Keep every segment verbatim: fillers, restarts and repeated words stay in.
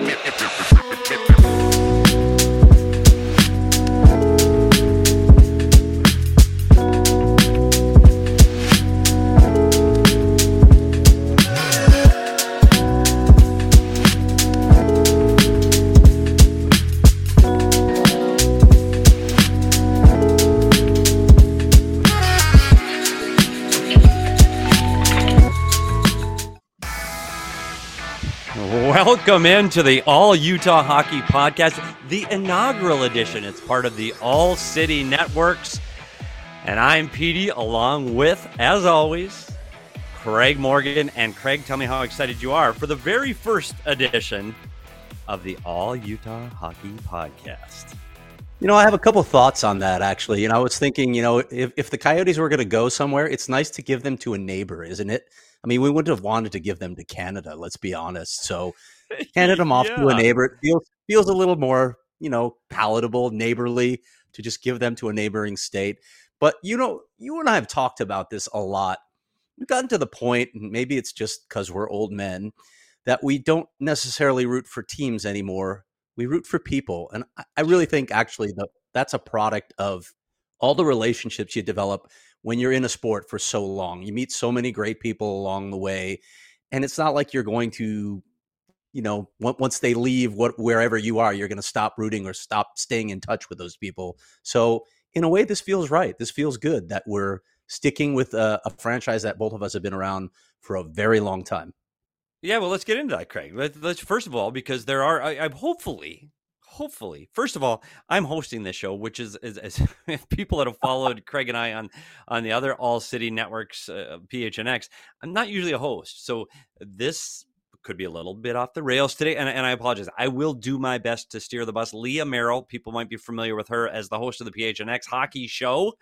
Welcome into the All Utah Hockey Podcast, the inaugural edition. It's part of the All City Networks. And I'm Petey, along with, as always, Craig Morgan. And Craig, tell me how excited you are for the very first edition of the All Utah Hockey Podcast. You know, I have a couple thoughts on that, actually. You know, I was thinking, you know, if, if the Coyotes were going to go somewhere, it's nice to give them to a neighbor, isn't it? I mean, we wouldn't have wanted to give them to Canada, let's be honest. So handed them off yeah. to a neighbor. It feels, feels a little more, you know, palatable, neighborly to just give them to a neighboring state. But, you know, you and I have talked about this a lot. We've gotten to the point, and maybe it's just because we're old men, that we don't necessarily root for teams anymore. We root for people. And I really think actually that that's a product of all the relationships you develop when you're in a sport for so long. You meet so many great people along the way. And it's not like you're going to, you know, once they leave what wherever you are, you're going to stop rooting or stop staying in touch with those people. So in a way, this feels right. This feels good that we're sticking with a, a franchise that both of us have been around for a very long time. Yeah, well, let's get into that, Craig. Let's, let's first of all, because there are, I, I'm hopefully, hopefully, first of all, I'm hosting this show, which is, is, is if people that have followed Craig and I on on the other All City Networks, uh, P H N X, I'm not usually a host, so this could be a little bit off the rails today, and, and I apologize. I will do my best to steer the bus. Leah Merrill, people might be familiar with her as the host of the P H N X Hockey Show,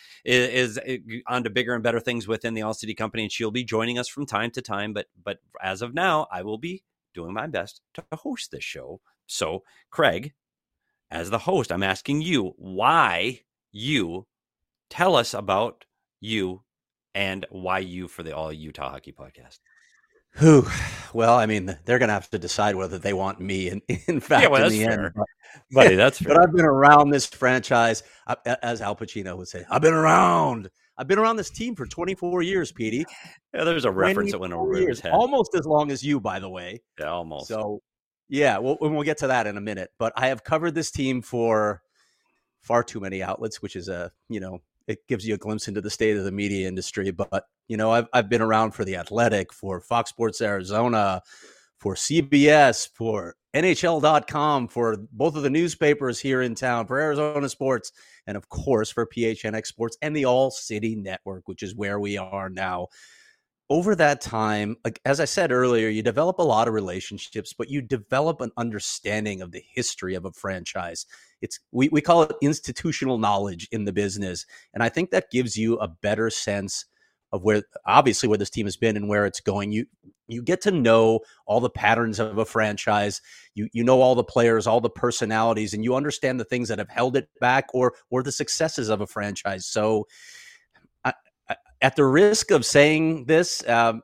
is, is on to bigger and better things within the All City Company, and she'll be joining us from time to time. But but as of now, I will be doing my best to host this show. So, Craig, as the host, I'm asking you why you tell us about you and why you for the All Utah Hockey Podcast. Who? Well, I mean, they're going to have to decide whether they want me. In, in fact, yeah, well, in the fair. end, but, buddy, that's fair. But I've been around this franchise, as Al Pacino would say. I've been around. I've been around this team for twenty-four years, Petey. Yeah, there's a reference that went over his head. Almost as long as you, by the way. Yeah, almost. So, yeah, we'll, we'll get to that in a minute. But I have covered this team for far too many outlets, which is a, you know, it gives you a glimpse into the state of the media industry. But, you know, I've I've been around for The Athletic, for Fox Sports Arizona, for C B S, for N H L dot com, for both of the newspapers here in town, for Arizona Sports, and of course for P H N X Sports and the All City Network, which is where we are now. Over that time, like as I said earlier, you develop a lot of relationships, but you develop an understanding of the history of a franchise. It's we, we call it institutional knowledge in the business. And I think that gives you a better sense of where, obviously, where this team has been and where it's going. You you get to know all the patterns of a franchise. You you know all the players, all the personalities, and you understand the things that have held it back or or the successes of a franchise. So I, I, at the risk of saying this, um,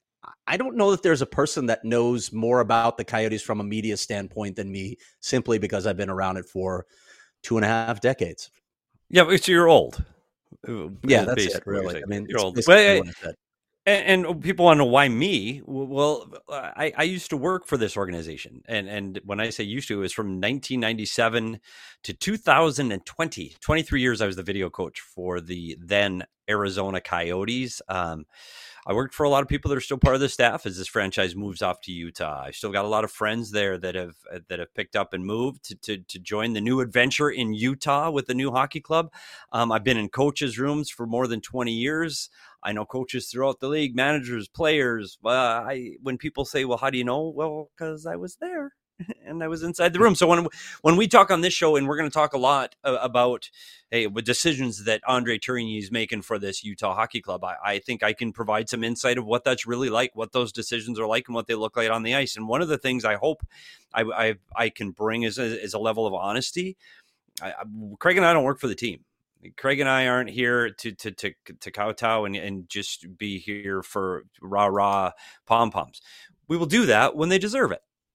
I don't know that there's a person that knows more about the Coyotes from a media standpoint than me, simply because I've been around it for two and a half decades. Yeah, but so you're old. Yeah, that's it, really. I mean, you're old. Well, I, and, and people want to know why me. Well, I, I used to work for this organization. And, and when I say used to, it was from nineteen ninety-seven to two thousand twenty. twenty-three years I was the video coach for the then Arizona Coyotes. Um, I worked for a lot of people that are still part of the staff as this franchise moves off to Utah. I still got a lot of friends there that have that have picked up and moved to to, to join the new adventure in Utah with the new hockey club. Um, I've been in coaches' rooms for more than twenty years. I know coaches throughout the league, managers, players. Uh, I when people say, "Well, how do you know?" Well, because I was there. And I was inside the room. So when when we talk on this show, and we're going to talk a lot uh, about hey, with decisions that Andre Tourigny is making for this Utah Hockey Club, I, I think I can provide some insight of what that's really like, what those decisions are like, and what they look like on the ice. And one of the things I hope I I, I can bring is a, is a level of honesty. I, I, Craig and I don't work for the team. Craig and I aren't here to to to to kowtow and, and just be here for rah rah pom poms. We will do that when they deserve it.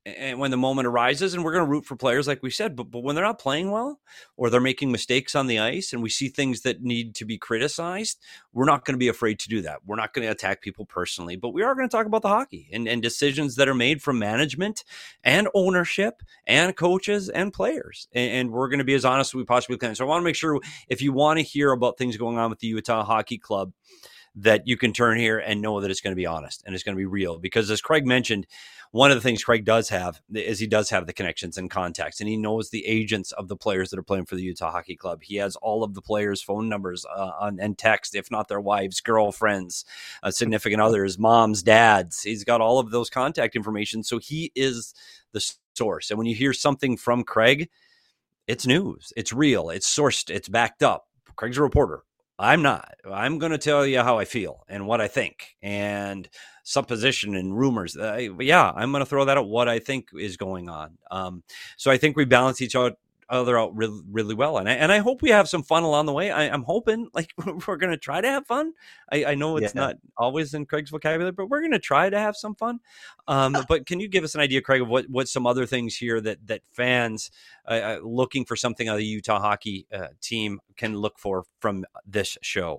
and when the moment arises, and we're going to root for players like we said, but, but when they're not playing well or they're making mistakes on the ice and we see things that need to be criticized, we're not going to be afraid to do that. We're not going to attack people personally, but we are going to talk about the hockey and, and decisions that are made from management and ownership and coaches and players. And, and we're going to be as honest as we possibly can. So I want to make sure if you want to hear about things going on with the Utah Hockey Club, that you can turn here and know that it's going to be honest and it's going to be real. Because as Craig mentioned, one of the things Craig does have is he does have the connections and contacts, and he knows the agents of the players that are playing for the Utah Hockey Club. He has all of the players' phone numbers uh, on, and text, if not their wives, girlfriends, uh, significant others, moms, dads. He's got all of those contact information. So he is the source. And when you hear something from Craig, it's news, it's real, it's sourced, it's backed up. Craig's a reporter. I'm not. I'm going to tell you how I feel and what I think and supposition and rumors. Uh, yeah, I'm going to throw that at what I think is going on. Um, so I think we balance each other other out really, really well. And I, and I hope we have some fun along the way. I, I'm hoping like we're going to try to have fun. I, I know it's yeah. not always in Craig's vocabulary, but we're going to try to have some fun. Um, but can you give us an idea, Craig, of what, what some other things here that, that fans uh, looking for something out of the Utah hockey uh, team can look for from this show?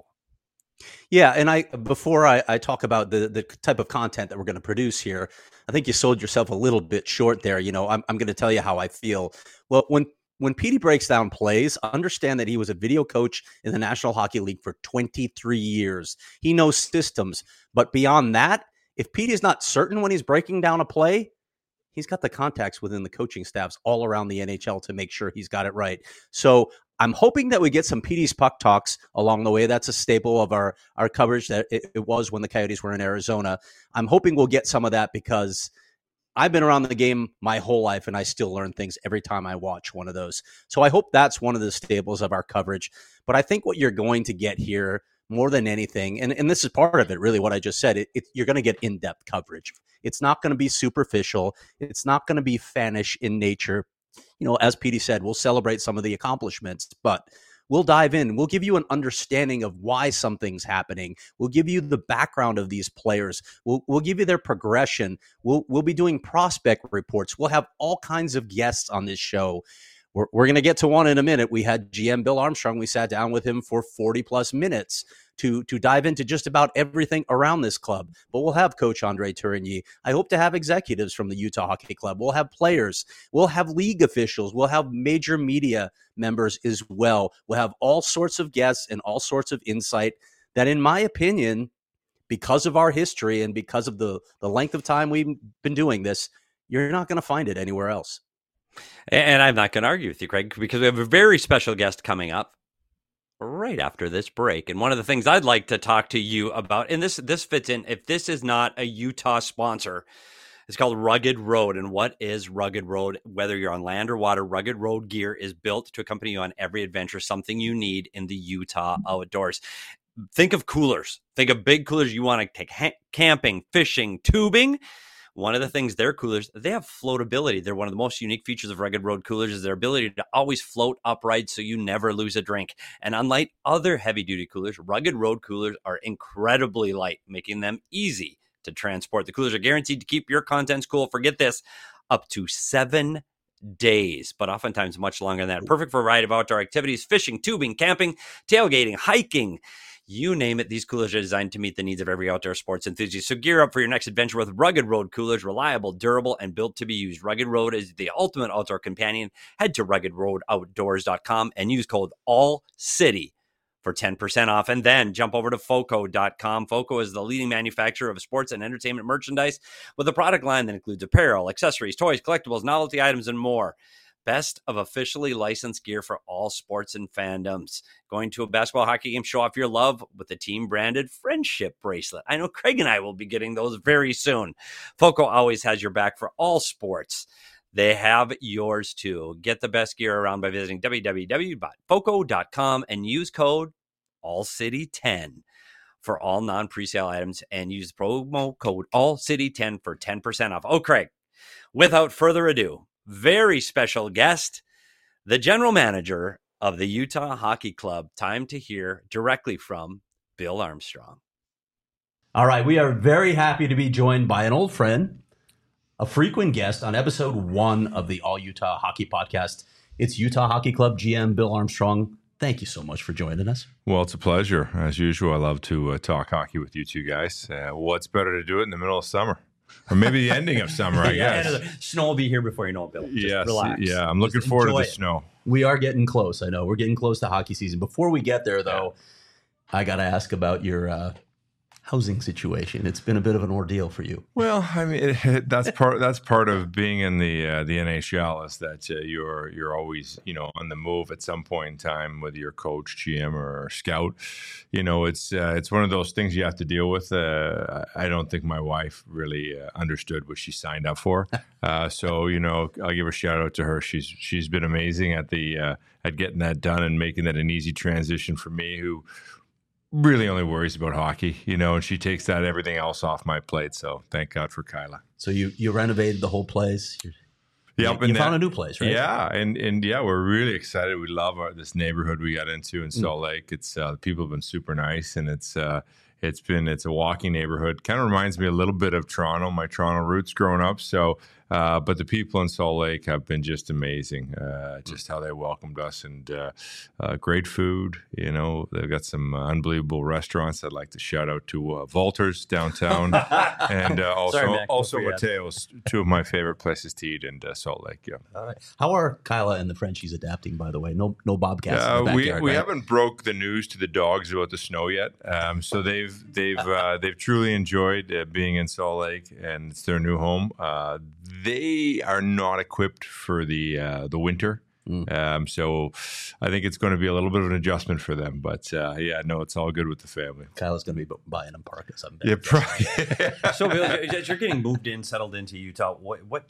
Yeah. And I, before I, I talk about the, the type of content that we're going to produce here, I think you sold yourself a little bit short there. You know, I'm, I'm going to tell you how I feel. Well, when, When Petey breaks down plays, understand that he was a video coach in the National Hockey League for twenty-three years. He knows systems. But beyond that, if Petey is not certain when he's breaking down a play, he's got the contacts within the coaching staffs all around the N H L to make sure he's got it right. So I'm hoping that we get some Petey's Puck Talks along the way. That's a staple of our, our coverage that it, it was when the Coyotes were in Arizona. I'm hoping we'll get some of that because I've been around the game my whole life, and I still learn things every time I watch one of those. So I hope that's one of the staples of our coverage. But I think what you're going to get here more than anything, and, and this is part of it, really, what I just said, it, it, you're going to get in-depth coverage. It's not going to be superficial. It's not going to be fanish in nature. You know, as Petey said, we'll celebrate some of the accomplishments, but we'll dive in. We'll give you an understanding of why something's happening. We'll give you the background of these players. We'll we'll give you their progression. We'll we'll be doing prospect reports. We'll have all kinds of guests on this show. We're we're going to get to one in a minute. We had G M Bill Armstrong. We sat down with him for forty plus minutes to to dive into just about everything around this club. But we'll have Coach Andre Tourigny. I hope to have executives from the Utah Hockey Club. We'll have players. We'll have league officials. We'll have major media members as well. We'll have all sorts of guests and all sorts of insight that, in my opinion, because of our history and because of the, the length of time we've been doing this, you're not going to find it anywhere else. And I'm not going to argue with you, Craig, because we have a very special guest coming up right after this break. And one of the things I'd like to talk to you about, and this this fits in, if this is not a Utah sponsor, it's called Rugged Road. And what is Rugged Road? Whether you're on land or water, Rugged Road gear is built to accompany you on every adventure, something you need in the Utah outdoors. Think of coolers. Think of big coolers you want to take ha- camping, fishing, tubing. One of the things their coolers, they have floatability. They're one of the most unique features of Rugged Road coolers is their ability to always float upright so you never lose a drink. And unlike other heavy-duty coolers, Rugged Road coolers are incredibly light, making them easy to transport. The coolers are guaranteed to keep your contents cool. Forget this, up to seven days, but oftentimes much longer than that. Perfect for a variety of outdoor activities, fishing, tubing, camping, tailgating, hiking. You name it, these coolers are designed to meet the needs of every outdoor sports enthusiast. So gear up for your next adventure with Rugged Road coolers, reliable, durable, and built to be used. Rugged Road is the ultimate outdoor companion. Head to rugged road outdoors dot com and use code ALLCITY for ten percent off. And then jump over to foco dot com. Foco is the leading manufacturer of sports and entertainment merchandise with a product line that includes apparel, accessories, toys, collectibles, novelty items, and more. Best of officially licensed gear for all sports and fandoms. Going to a basketball, hockey game, show off your love with the team-branded friendship bracelet. I know Craig and I will be getting those very soon. Foco always has your back for all sports. They have yours too. Get the best gear around by visiting w w w dot foco dot com and use code all city ten for all non-presale items and use promo code all city ten for ten percent off. Oh, Craig, without further ado, very special guest, the general manager of the Utah Hockey Club. Time to hear directly from Bill Armstrong. All right, we are very happy to be joined by an old friend, a frequent guest on episode one of the All Utah Hockey Podcast. It's Utah Hockey Club G M Bill Armstrong. Thank you so much for joining us. Well, it's a pleasure. As usual, I love to uh, talk hockey with you two guys. Uh, what's better to do it in the middle of summer? Or maybe the ending of summer, I yeah, guess. The snow will be here before you know it, Bill. Just yes, relax. Yeah, I'm looking Just forward to the it. snow. We are getting close. I know we're getting close to hockey season. Before we get there, though, yeah. I got to ask about your uh, housing situation. It's been a bit of an ordeal for you. Well, I mean, it, it, that's part. That's part of being in the uh, the N H L is that uh, you're you're always you know on the move at some point in time, whether you're coach, G M, or scout. You know, it's uh, it's one of those things you have to deal with. Uh, I don't think my wife really uh, understood what she signed up for. Uh, so you know, I'll give a shout out to her. She's she's been amazing at the uh, at getting that done and making that an easy transition for me, who really only worries about hockey, you know, and she takes that everything else off my plate. So thank God for Kyla. So you you renovated the whole place. You're, yep, you, you and found that, a new place, right? Yeah, and and yeah, we're really excited. We love our, this neighborhood we got into in Salt Lake. It's uh, the people have been super nice, and it's uh, it's been it's a walking neighborhood. Kind of reminds me a little bit of Toronto, my Toronto roots growing up. So. Uh, but the people in Salt Lake have been just amazing, uh, just how they welcomed us, and uh, uh, great food. You know, they've got some uh, unbelievable restaurants. I'd like to shout out to uh, Valters downtown, and uh, also Sorry, Mac, also Mateo's, two of my favorite places to eat in uh, Salt Lake. Yeah. All right. How are Kyla and the Frenchies adapting? By the way, no no bobcats. Uh, in the we backyard, we right? haven't broke the news to the dogs about the snow yet, um, so they've they've uh, they've truly enjoyed uh, being in Salt Lake, and it's their new home. Uh, they are not equipped for the uh, the winter, mm. um, so I think it's going to be a little bit of an adjustment for them. But uh, yeah, no, it's all good with the family. Kyla's going to be buying them parkas. I'm yeah, probably. So, Bill, you're getting moved in, settled into Utah. What? What?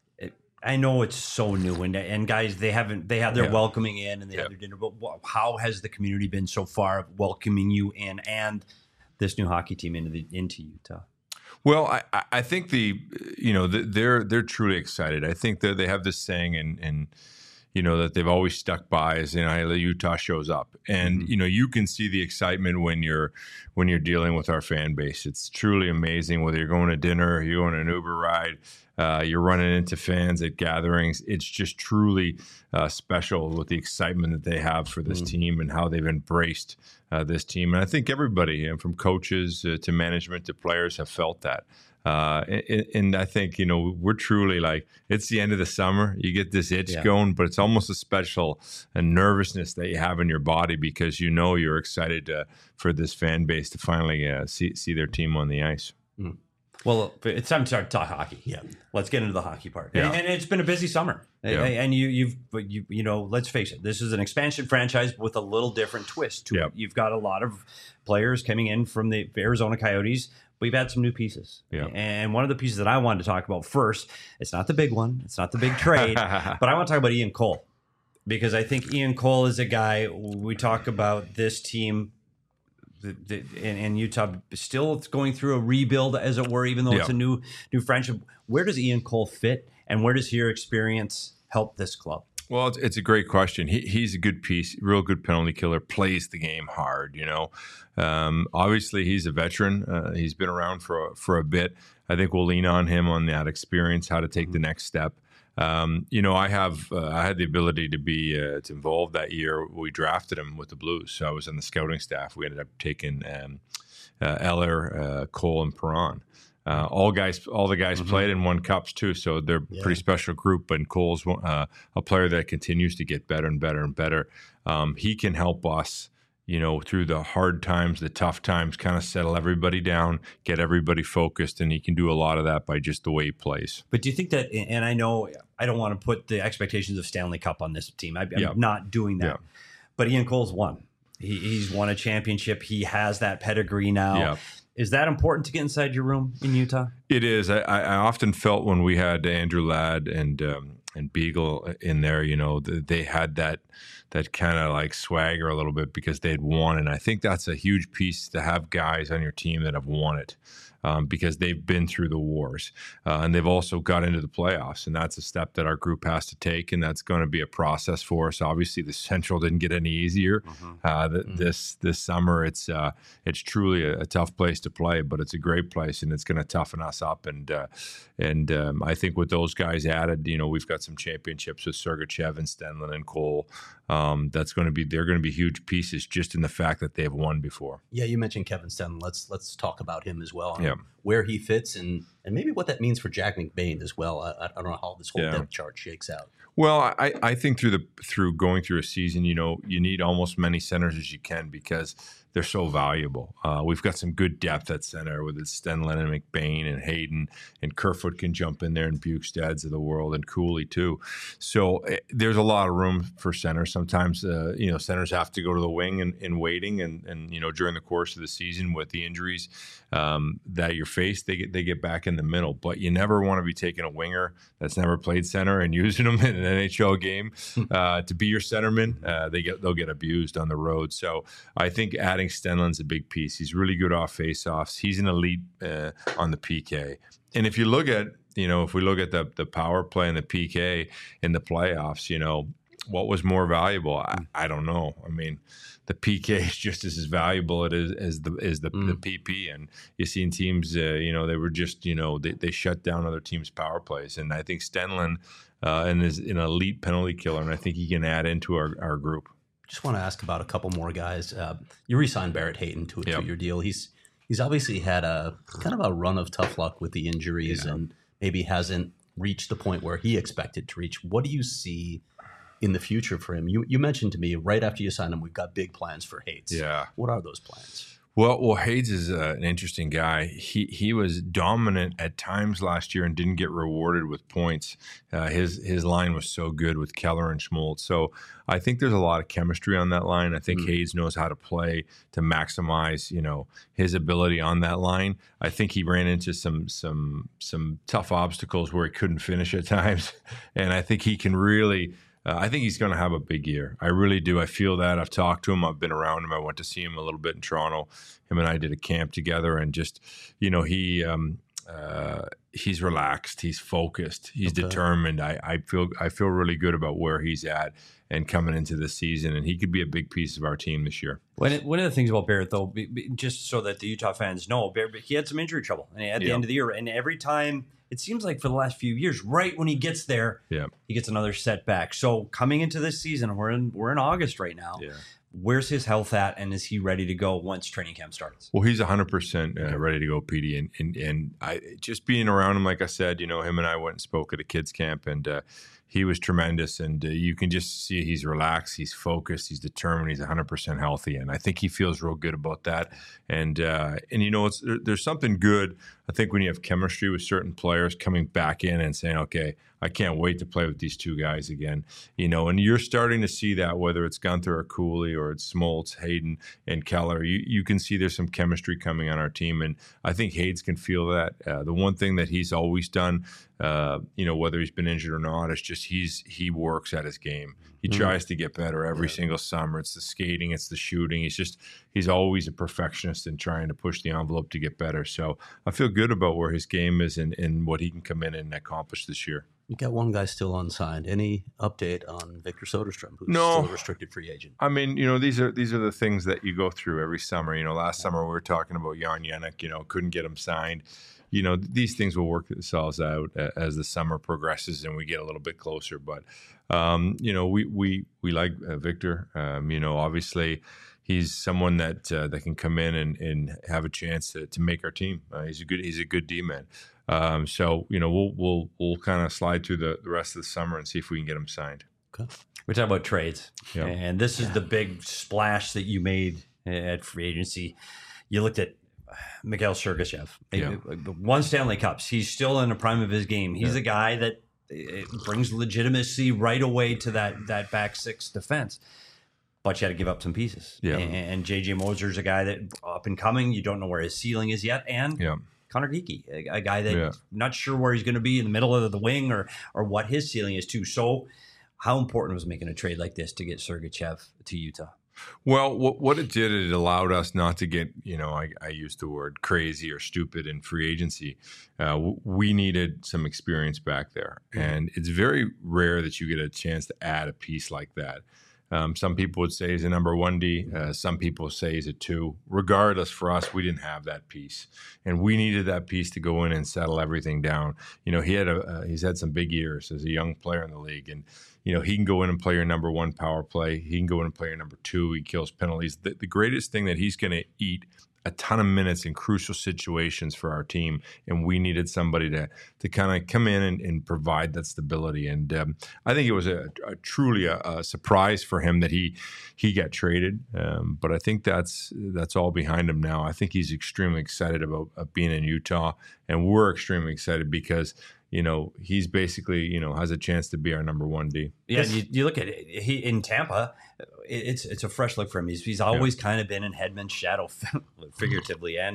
I know it's so new, and and guys, they haven't they have their yeah. welcoming in and they yeah. have their dinner. But how has the community been so far welcoming you in and this new hockey team into the into Utah? Well, I, I think the you know they're they're truly excited. I think that they have this saying, and and you know that they've always stuck by is, you know, Utah shows up, and mm-hmm. you know you can see the excitement when you're when you're dealing with our fan base. It's truly amazing. Whether you're going to dinner, you're going on an Uber ride, uh, you're running into fans at gatherings. It's just truly uh, special with the excitement that they have for this mm-hmm. team and how they've embraced uh, this team. And I think everybody, you know, from coaches uh, to management to players, have felt that. Uh, and, and I think, you know, we're truly like, it's the end of the summer. You get this itch yeah. going, but it's almost a special a nervousness that you have in your body because you know you're excited uh, for this fan base to finally uh, see see their team on the ice. Mm. Well, it's time to start talk hockey. Yeah, let's get into the hockey part. Yeah. And, and it's been a busy summer. Yeah. And you, you've, you, you know, let's face it, this is an expansion franchise with a little different twist to yeah. it. You've got a lot of players coming in from the Arizona Coyotes. We've had some new pieces. Yeah. And one of the pieces that I wanted to talk about first, it's not the big one, it's not the big trade, but I want to talk about Ian Cole. Because I think Ian Cole is a guy, we talk about this team the, the, in, in Utah still going through a rebuild, as it were, even though yeah. it's a new new friendship. Where does Ian Cole fit, and where does your experience help this club? Well, it's, it's a great question. He, he's a good piece, real good penalty killer, plays the game hard, you know. Um, obviously, he's a veteran. Uh, he's been around for, a, for a bit. I think we'll lean on him on that experience, how to take mm-hmm. the next step. Um, you know, I have uh, I had the ability to be uh, to involved that year. We drafted him with the Blues, so I was on the scouting staff. We ended up taking um, uh, Eller, uh, Cole, and Perron. Uh, all guys, all the guys mm-hmm. played and won cups too, so they're a yeah. pretty special group. And Cole's uh, a player that continues to get better and better and better. Um, he can help us, you know, through the hard times, the tough times, kind of settle everybody down, get everybody focused, and he can do a lot of that by just the way he plays. But do you think that, and I know I don't want to put the expectations of Stanley Cup on this team. I, I'm yeah. not doing that. Yeah. But Ian Cole's won. He, he's won a championship. He has that pedigree now. Yeah. Is that important to get inside your room in Utah? It is. I, I often felt when we had Andrew Ladd and um, and Beagle in there, you know, they had that that kind of like swagger a little bit because they'd won. And I think that's a huge piece to have guys on your team that have won it. um, because they've been through the wars uh, and they've also got into the playoffs. And that's a step that our group has to take. And that's going to be a process for us. Obviously, the Central didn't get any easier mm-hmm. uh, th- mm-hmm. this this summer. It's uh, it's truly a, a tough place to play, but it's a great place, and it's going to toughen us up. And uh, and um, I think with those guys added, you know, we've got some championships with Sergachev and Stenlund and Cole. Um, that's going to be they're going to be huge pieces just in the fact that they've won before. Yeah, you mentioned Kevin Stenlund. Let's let's talk about him as well. Yeah. Where he fits and and maybe what that means for Jack McBain as well. I, I don't know how this whole yeah. depth chart shakes out. Well, I, I think through the through going through a season, you know, you need almost many centers as you can because they're so valuable. Uh, we've got some good depth at center with Stenlund and McBain and Hayden, and Kerfoot can jump in there, and Bukestads of the world, and Cooley too. So uh, there's a lot of room for center. Sometimes, uh, you know, centers have to go to the wing in, in waiting, and and you know during the course of the season with the injuries um, that you're faced, they get they get back in the middle. But you never want to be taking a winger that's never played center and using them in an N H L game uh, to be your centerman. Uh, they get they'll get abused on the road. So I think adding Stenlund's a big piece. He's really good off faceoffs. He's an elite uh, on the P K. And if you look at, you know, if we look at the the power play and the P K in the playoffs, you know, what was more valuable? I, I don't know. I mean, the P K is just as valuable it is as the as the, mm. the P P. And you've seen teams, uh, you know, they were just, you know, they, they shut down other teams' power plays. And I think Stenlund uh, and is an elite penalty killer, and I think he can add into our, our group. Just want to ask about a couple more guys. Uh, you re-signed Barrett Hayton to a yep. two-year deal. He's he's obviously had a kind of a run of tough luck with the injuries yeah. and maybe hasn't reached the point where he expected to reach. What do you see in the future for him? You you mentioned to me right after you signed him, we've got big plans for Hayes. Yeah. What are those plans? Well, well, Hayes is uh, an interesting guy. He he was dominant at times last year and didn't get rewarded with points. Uh, his his line was so good with Keller and Schmaltz. So I think there's a lot of chemistry on that line. I think mm. Hayes knows how to play to maximize, you know, his ability on that line. I think he ran into some some some tough obstacles where he couldn't finish at times, and I think he can really. Uh, I think he's going to have a big year. I really do. I feel that. I've talked to him. I've been around him. I went to see him a little bit in Toronto. Him and I did a camp together, and just, you know, he um, uh, he's relaxed. He's focused. He's okay. determined. I, I feel I feel really good about where he's at and coming into this season, and he could be a big piece of our team this year. One one of the things about Barrett, though, just so that the Utah fans know, Barrett, he had some injury trouble at the yeah. end of the year, and every time. It seems like for the last few years, right when he gets there, yeah. he gets another setback. So coming into this season, we're in we're in August right now. Yeah. Where's his health at, and is he ready to go once training camp starts? Well, he's one hundred percent uh, ready to go, P D. And, and, and I just being around him, like I said, you know, him and I went and spoke at a kids camp, and uh, he was tremendous. And uh, you can just see he's relaxed, he's focused, he's determined, he's one hundred percent healthy. And I think he feels real good about that. And, uh, and you know, it's, there's something good, I think, when you have chemistry with certain players coming back in and saying, okay, I can't wait to play with these two guys again. You know, and you're starting to see that, whether it's Gunther or Cooley or it's Smoltz, Hayden, and Keller. You you can see there's some chemistry coming on our team, and I think Hayes can feel that. Uh, the one thing that he's always done, uh, you know, whether he's been injured or not, is just he's he works at his game. He mm-hmm. tries to get better every yeah. single summer. It's the skating, it's the shooting. He's just he's always a perfectionist and trying to push the envelope to get better. So I feel good about where his game is and, and what he can come in and accomplish this year. You got one guy still unsigned. Any update on Victor Soderstrom, who's no. still a restricted free agent? I mean, you know, these are these are the things that you go through every summer. You know, last yeah. summer we were talking about Jan Jenik, you know, couldn't get him signed. You know, these things will work themselves out as the summer progresses and we get a little bit closer. But, um, you know, we we we like uh, Victor. Um, you know, obviously he's someone that uh, that can come in and, and have a chance to, to make our team. Uh, he's a good he's a good D-man. Um, so, you know, we'll we'll we'll kind of slide through the, the rest of the summer and see if we can get him signed. Okay. We're talking about trades. Yep. And this is yeah. the big splash that you made at free agency. You looked at Mikhail Sergachev, yeah. one Stanley Cups. He's still in the prime of his game. He's yeah. a guy that brings legitimacy right away to that that back six defense. But you had to give up some pieces. Yeah. And J J Moser's a guy that up and coming. You don't know where his ceiling is yet. And yeah. Connor Geekie, a, a guy that yeah. not sure where he's going to be in the middle of the wing or or what his ceiling is too. So how important was making a trade like this to get Sergachev to Utah? Well, what, what it did, it allowed us not to get, you know, I, I used the word crazy or stupid in free agency. Uh, we needed some experience back there. Mm-hmm. And it's very rare that you get a chance to add a piece like that. Um, some people would say he's a number one D. Uh, some people say he's a two. Regardless, for us, we didn't have that piece, and we needed that piece to go in and settle everything down. You know, he had a uh, he's had some big years as a young player in the league, and you know he can go in and play your number one power play. He can go in and play your number two. He kills penalties. The, the greatest thing that he's going to eat a ton of minutes in crucial situations for our team, and we needed somebody to to kind of come in and, and provide that stability. And um, I think it was a, a truly a, a surprise for him that he he got traded. Um, but I think that's that's all behind him now. I think he's extremely excited about uh, being in Utah, and we're extremely excited because you know he's basically you know has a chance to be our number one D. Yeah, you, you look at it. He in Tampa. It's it's a fresh look for him. He's he's always yeah. kind of been in Hedman's shadow, figuratively and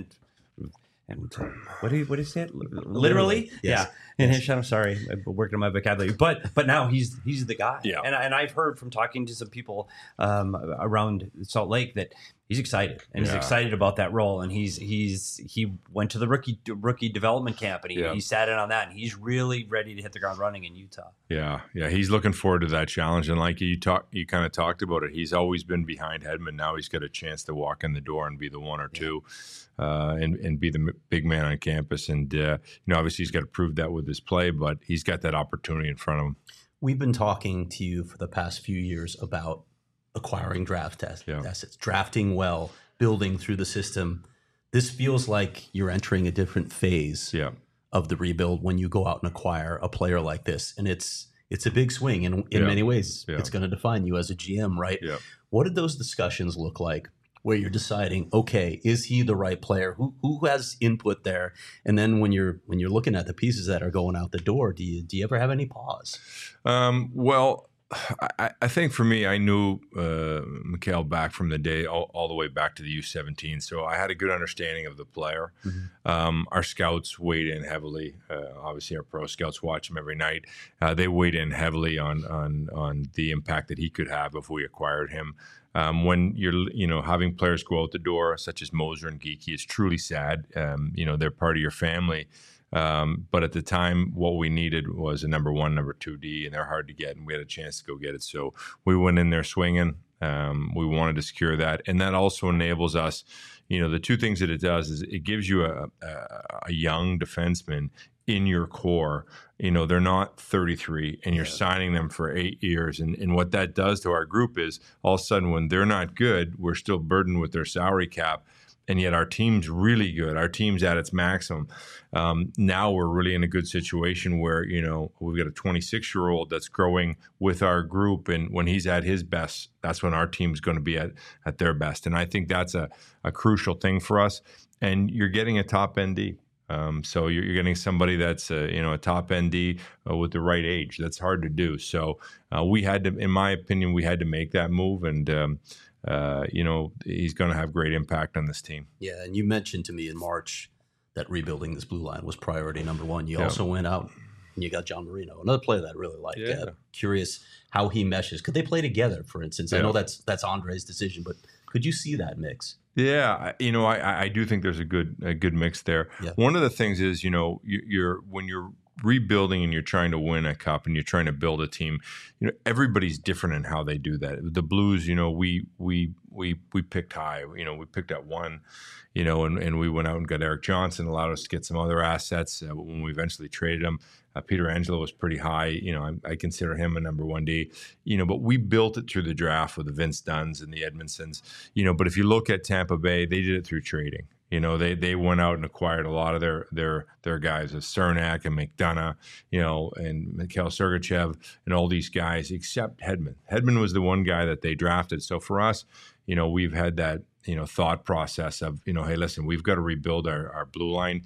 and uh, what do you what do you say? It? Literally, Literally? Yes. yeah. In yes. his shadow. Sorry, I worked on my vocabulary, but but now he's he's the guy. Yeah. And and I've heard from talking to some people um, around Salt Lake that he's excited and yeah. he's excited about that role. And he's he's he went to the rookie rookie development camp and he, yeah. he sat in on that. And he's really ready to hit the ground running in Utah. Yeah, yeah, he's looking forward to that challenge. And like you talk, you kind of talked about it. He's always been behind Hedman. Now he's got a chance to walk in the door and be the one or two, yeah. uh, and and be the big man on campus. And uh, you know, obviously he's got to prove that with his play, but he's got that opportunity in front of him. We've been talking to you for the past few years about acquiring draft assets, yeah. drafting well, building through the system. This feels like you're entering a different phase yeah. of the rebuild when you go out and acquire a player like this. And it's it's a big swing. And in yeah. many ways, yeah. it's going to define you as a G M, right? Yeah. What did those discussions look like where you're deciding, okay, is he the right player? Who who has input there? And then when you're when you're looking at the pieces that are going out the door, do you do you ever have any pause? Um, well, I, I think for me, I knew uh, Mikhail back from the day, all, all the way back to the U seventeen. So I had a good understanding of the player. Mm-hmm. Um, our scouts weighed in heavily. Uh, obviously, our pro scouts watch him every night. Uh, they weighed in heavily on on on the impact that he could have if we acquired him. Um, when you're, you know, having players go out the door, such as Moser and Geekie, it's truly sad. Um, you know, they're part of your family. Um, but at the time, what we needed was a number one, number two D, and they're hard to get, and we had a chance to go get it. So we went in there swinging. Um, we wanted to secure that, and that also enables us. You know, the two things that it does is it gives you a, a, a young defenseman in your core. You know, they're not thirty-three, and you're yeah. signing them for eight years. And, and what that does to our group is all of a sudden, when they're not good, we're still burdened with their salary cap. And yet our team's really good. Our team's at its maximum. Um, now we're really in a good situation where, you know, we've got a twenty-six-year-old that's growing with our group. And when he's at his best, that's when our team's going to be at, at their best. And I think that's a, a crucial thing for us. And you're getting a top N D. Um, so you're, you're getting somebody that's, a, you know, a top N D uh, with the right age. That's hard to do. So uh, we had to, in my opinion, we had to make that move. And, um, Uh, you know, he's going to have great impact on this team. Yeah, and you mentioned to me in March that rebuilding this blue line was priority number one. You yeah. also went out and you got John Marino, another player that I really like. Yeah. Uh, curious how he meshes. Could they play together, for instance? Yeah. I know that's that's Andre's decision, but could you see that mix? Yeah, you know, I, I do think there's a good a good mix there. Yeah. One of the things is, you know, you, you're when you're rebuilding and you're trying to win a cup and you're trying to build a team, you know, everybody's different in how they do that. The Blues, you know, we we we we picked high, you know, we picked at one, you know, and, and we went out and got Eric Johnson, allowed us to get some other assets uh, when we eventually traded him. Uh, Peter Angelo was pretty high, you know, I, I consider him a number one D, you know, but we built it through the draft with the Vince Dunns and the Edmondsons, you know, but if you look at Tampa Bay, they did it through trading. You know, they they went out and acquired a lot of their their their guys, uh, Cernak and McDonough, you know, and Mikhail Sergachev and all these guys, except Hedman. Hedman was the one guy that they drafted. So for us, you know, we've had that, you know, thought process of, you know, hey, listen, we've got to rebuild our, our blue line.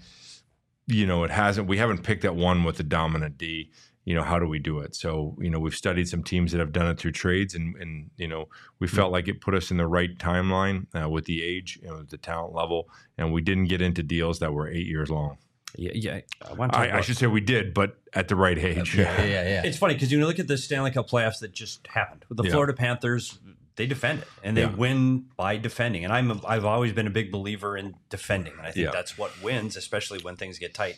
You know, it hasn't, we haven't picked at one with the dominant D. You know, how do we do it? So, you know, we've studied some teams that have done it through trades, and, and you know, we felt like it put us in the right timeline uh, with the age, you know, the talent level, and we didn't get into deals that were eight years long. Yeah, yeah. I, want to I, I should say we did, but at the right age. Yeah, yeah, yeah. It's funny because you look at the Stanley Cup playoffs that just happened with the yeah. Florida Panthers. they defend it, and they Yeah. win by defending. And I'm a, I've always been a big believer in defending, and I think Yeah. that's what wins, especially when things get tight.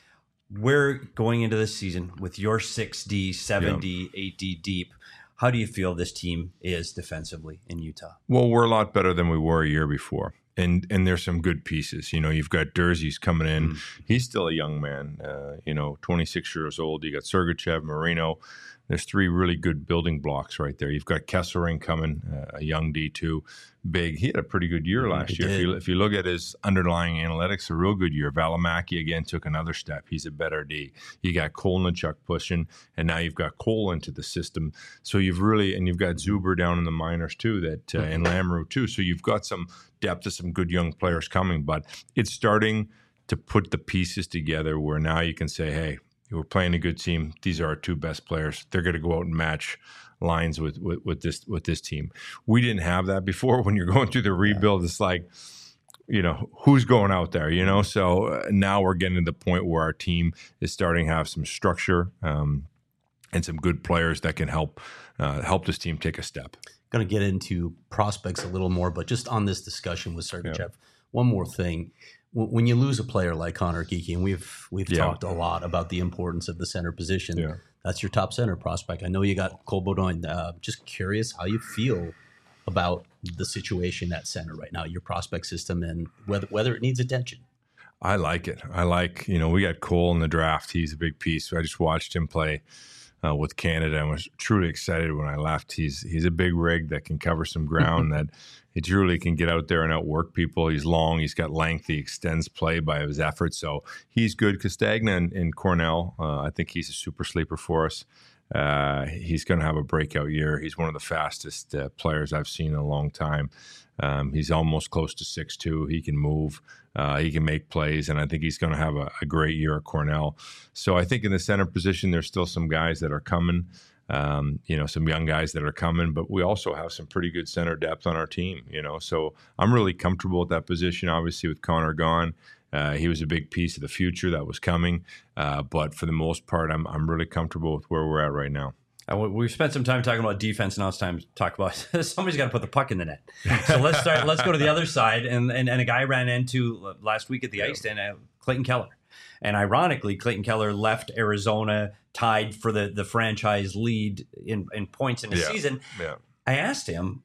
We're going into this season with your six D, seven D, eight D deep. How do you feel this team is defensively in Utah? Well, we're a lot better than we were a year before. And and there's some good pieces. You know, you've got Durzee's coming in. Mm. He's still a young man, uh, you know, twenty-six years old. You got Sergachev, Marino. There's three really good building blocks right there. You've got Kesselring coming, uh, a young D two, big. He had a pretty good year last he year. If did. you, if you look at his underlying analytics, a real good year. Valimaki, again, took another step. He's a better D. You got Kolnichuk pushing, and now you've got Cole into the system. So you've really, and you've got Zuber down in the minors too, that uh, and Lamoureux too. So you've got some depth of some good young players coming, but it's starting to put the pieces together where now you can say, hey, we're playing a good team. These are our two best players. They're going to go out and match lines with, with, with this with this team. We didn't have that before. When you're going through the rebuild, it's like, you know, who's going out there, you know? So uh, now we're getting to the point where our team is starting to have some structure um, and some good players that can help uh, help this team take a step. Going to get into prospects a little more, but just on this discussion with Sergachev, Yeah. one more thing. When you lose a player like Connor Geekie, and we've we've Yeah. talked a lot about the importance of the center position, Yeah. that's your top center prospect. I know you got Cole Beaudoin. Uh, just curious how you feel about the situation at center right now, your prospect system, and whether whether it needs attention. I like it. I like, you know, we got Cole in the draft. He's a big piece. I just watched him play uh, with Canada and was truly excited when I left. He's he's a big rig that can cover some ground, that he truly can get out there and outwork people. He's long. He's got length. He extends play by his effort. So he's good. Castagna and, and Cornell, uh, I think he's a super sleeper for us. Uh, he's going to have a breakout year. He's one of the fastest uh, players I've seen in a long time. Um, he's almost close to six two. He can move. Uh, he can make plays, and I think he's going to have a, a great year at Cornell. So I think in the center position, there's still some guys that are coming, um, you know, some young guys that are coming, but we also have some pretty good center depth on our team, you know. So I'm really comfortable with that position, obviously, with Connor gone. Uh, he was a big piece of the future that was coming, uh, but for the most part, I'm I'm really comfortable with where we're at right now. Uh, we've spent some time talking about defense. Now it's time to talk about somebody's got to put the puck in the net. So let's start. Let's go to the other side. And and, and a guy ran into last week at the ice stand, uh, Clayton Keller. And ironically, Clayton Keller left Arizona tied for the, the franchise lead in, in points in the Yeah. season. Yeah. I asked him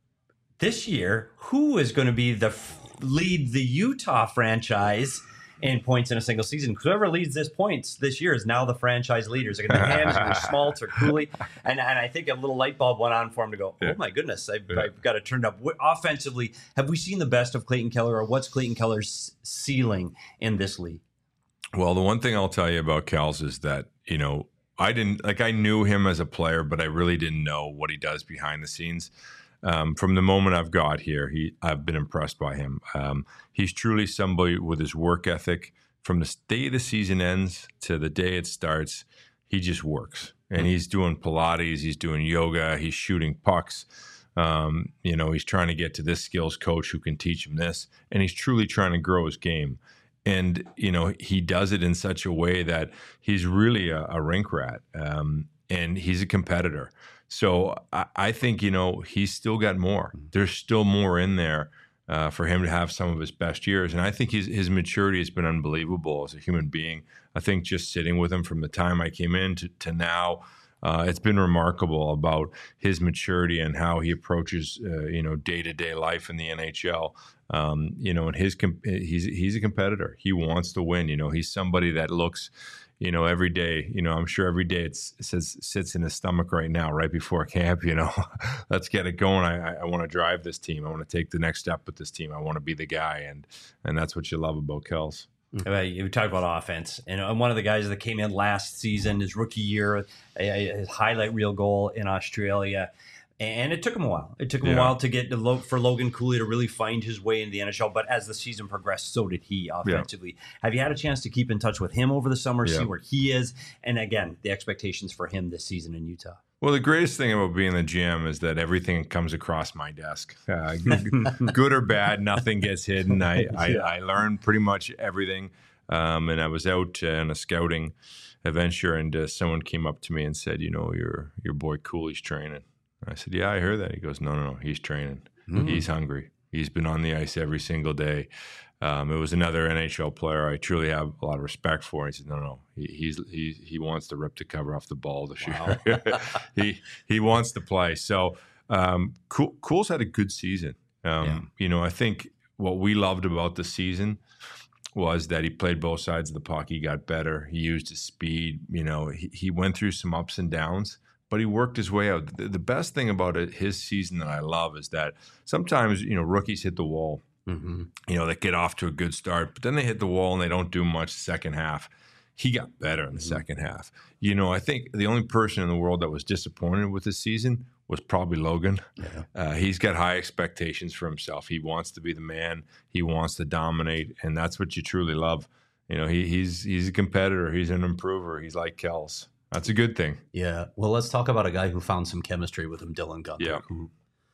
this year, who is going to be the f- lead the Utah franchise in points in a single season? Whoever leads this points this year is now the franchise leaders. They're going to be Hams, or Schmaltz, or Cooley. And, and I think a little light bulb went on for him to go, oh, Yeah. my goodness, I've, Yeah. I've got it turned up. What, offensively, have we seen the best of Clayton Keller, or what's Clayton Keller's ceiling in this league? Well, the one thing I'll tell you about Kels is that, you know, I didn't, like, I knew him as a player, but I really didn't know what he does behind the scenes. Um, from the moment I've got here, he, I've been impressed by him. Um, he's truly somebody with his work ethic. From the day the season ends to the day it starts, he just works. And he's doing Pilates, he's doing yoga, he's shooting pucks. Um, you know, he's trying to get to this skills coach who can teach him this. And he's truly trying to grow his game. And, you know, he does it in such a way that he's really a, a rink rat. Um, and he's a competitor. So I, I think, you know, he's still got more. There's still more in there uh, for him to have some of his best years. And I think his, his maturity has been unbelievable as a human being. I think just sitting with him from the time I came in to, to now, uh, it's been remarkable about his maturity and how he approaches, uh, you know, day-to-day life in the N H L. Um, you know, and his he's he's a competitor. He wants to win. You know, he's somebody that looks, you know, every day, you know, I'm sure every day it's, it says sits in his stomach right now, right before camp, you know, let's get it going. I, I want to drive this team. I want to take the next step with this team. I want to be the guy. And, and that's what you love about Kels. You talk about offense, and one of the guys that came in last season, his rookie year, his highlight reel goal in Australia. And it took him a while. It took him Yeah. a while to get to, for Logan Cooley to really find his way in the N H L. But as the season progressed, so did he offensively. Yeah. Have you had a chance to keep in touch with him over the summer, yeah. see where he is? And again, the expectations for him this season in Utah. Well, the greatest thing about being the G M is that everything comes across my desk. Uh, good, good or bad, nothing gets hidden. I, I, yeah. I learned pretty much everything. Um, and I was out uh, on a scouting adventure, and uh, someone came up to me and said, you know, your your boy Cooley's training. And I said, yeah, I heard that. He goes, no, no, no, he's training. Mm-hmm. He's hungry. He's been on the ice every single day. Um, it was another N H L player I truly have a lot of respect for. And he said, no, no, he, he's he he wants to rip the cover off the ball this Wow. year. he he wants to play. So um, cool, Cool's had a good season. Um, Yeah. You know, I think what we loved about the season was that he played both sides of the puck. He got better. He used his speed. You know, he, he went through some ups and downs, but he worked his way out. The, the best thing about it, his season that I love is that sometimes, you know, rookies hit the wall. Mm-hmm. You know, they get off to a good start, but then they hit the wall and they don't do much the second half. He got better in the Mm-hmm. second half. You know, I think the only person in the world that was disappointed with this season was probably Logan. Yeah. Uh, he's got high expectations for himself. He wants to be the man. He wants to dominate, and that's what you truly love. You know, he, he's he's a competitor. He's an improver. He's like Kels. That's a good thing. Yeah. Well, let's talk about a guy who found some chemistry with him, Dylan Guenther. Yeah. Who